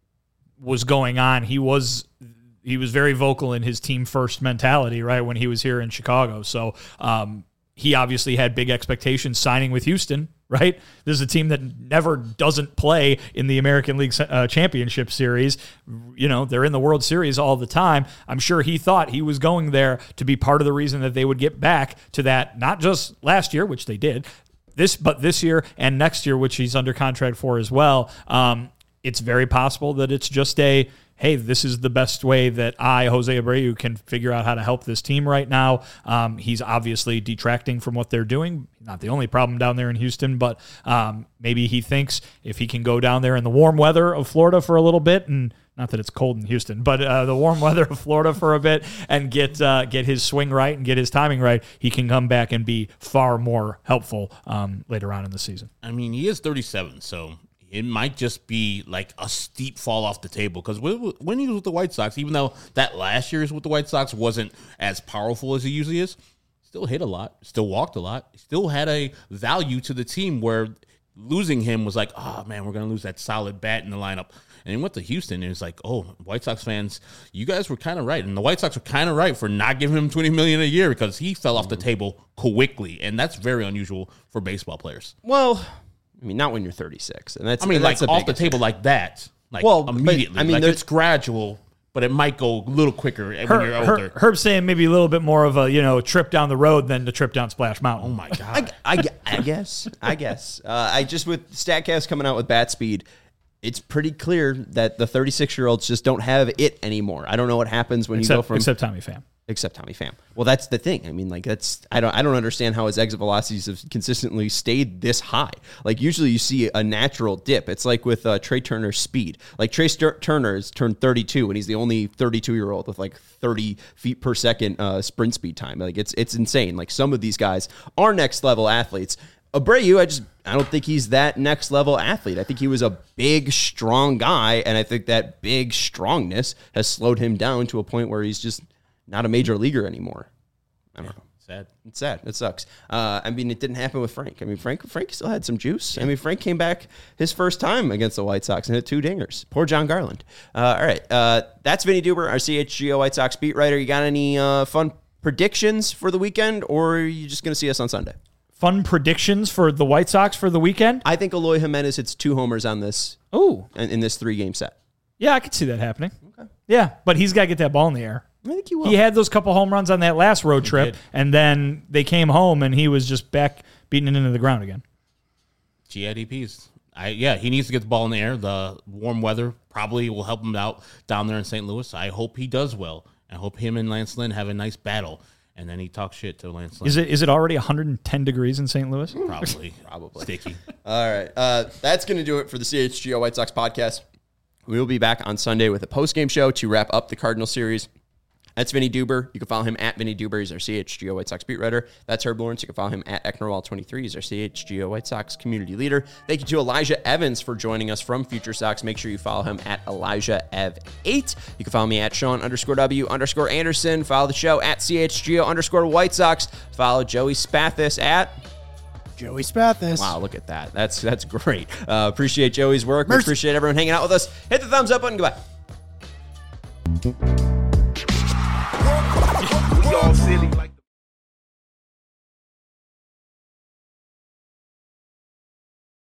was going on, he was he was very vocal in his team first mentality, right, when he was here in Chicago. So um, he obviously had big expectations signing with Houston, right? This is a team that never doesn't play in the American League uh, Championship Series. You know, they're in the World Series all the time. I'm sure he thought he was going there to be part of the reason that they would get back to that, not just last year, which they did, this, but this year and next year, which he's under contract for as well. Um, it's very possible that it's just a, hey, this is the best way that I, Jose Abreu, can figure out how to help this team right now. Um, he's obviously detracting from what they're doing. Not the only problem down there in Houston, but um, maybe he thinks if he can go down there in the warm weather of Florida for a little bit, and not that it's cold in Houston, but uh, the warm weather of Florida for a bit, and get uh, get his swing right and get his timing right, he can come back and be far more helpful um, later on in the season. I mean, he is thirty-seven, so it might just be like a steep fall off the table because when he was with the White Sox, even though that last year's with the White Sox wasn't as powerful as he usually is, still hit a lot, still walked a lot, still had a value to the team where losing him was like, oh, man, we're going to lose that solid bat in the lineup. And he went to Houston, and it's like, oh, White Sox fans, you guys were kind of right. And the White Sox were kind of right for not giving him twenty million dollars a year because he fell off the table quickly, and that's very unusual for baseball players. well, I mean, not when you're thirty-six, and that's I mean, and like that's off the biggest- table like that, like Well, but, immediately. I mean, like there's- it's gradual, but it might go a little quicker when Herb, you're older. Herb, Herb's saying maybe a little bit more of a, you know, trip down the road than the trip down Splash Mountain. Oh my god! I, I, I guess. I guess. Uh, I just with StatCast coming out with bat speed, it's pretty clear that the thirty-six-year-olds just don't have it anymore. I don't know what happens when you go except, from except Tommy Pham. except Tommy Pham. Well, that's the thing. I mean, like that's I don't I don't understand how his exit velocities have consistently stayed this high. Like usually you see a natural dip. It's like with uh, Trey Turner's speed. Like Trey St- Turner's turned thirty-two, and he's the only thirty-two-year-old with like thirty feet per second uh, sprint speed time. Like it's it's insane. Like some of these guys are next level athletes. Abreu, I just I don't think he's that next level athlete. I think he was a big, strong guy, and I think that big strongness has slowed him down to a point where he's just not a major leaguer anymore. I don't know. Sad. It's sad. It sucks. Uh, I mean, it didn't happen with Frank. I mean, Frank Frank still had some juice. I mean, Frank came back his first time against the White Sox and hit two dingers. Poor John Garland. Uh, all right. Uh, that's Vinny Duber, our C H G O White Sox beat writer. You got any uh, fun predictions for the weekend, or are you just going to see us on Sunday? Fun predictions for the White Sox for the weekend? I think Eloy Jimenez hits two homers on this Oh, in, in this three-game set. yeah, I could see that happening. Okay. Yeah, but he's got to get that ball in the air. I think he will. He had those couple home runs on that last road trip, did. and then they came home, and he was just back beating it into the ground again. G I D Ps. I yeah, he needs to get the ball in the air. The warm weather probably will help him out down there in Saint Louis. I hope he does well. I hope him and Lance Lynn have a nice battle. And then he talks shit to Lance Lynn. Is it is it already one hundred ten degrees in Saint Louis? Probably. Probably. Sticky. All right. Uh, that's going to do it for the C H G O White Sox podcast. We will be back on Sunday with a post-game show to wrap up the Cardinal series. That's Vinny Duber. You can follow him at Vinny Duber. He's our C H G O White Sox beat writer. That's Herb Lawrence. You can follow him at Ecknerwall twenty-three. He's our C H G O White Sox community leader. Thank you to Elijah Evans for joining us from Future Sox. Make sure you follow him at Elijah Ev eight. You can follow me at Sean underscore W underscore Anderson. Follow the show at C H G O underscore White Sox. Follow Joey Spathis at... Joey Spathis. Wow, look at that. That's that's great. Uh, appreciate Joey's work. We Mercy. appreciate everyone hanging out with us. Hit the thumbs up button. Goodbye. We all silly like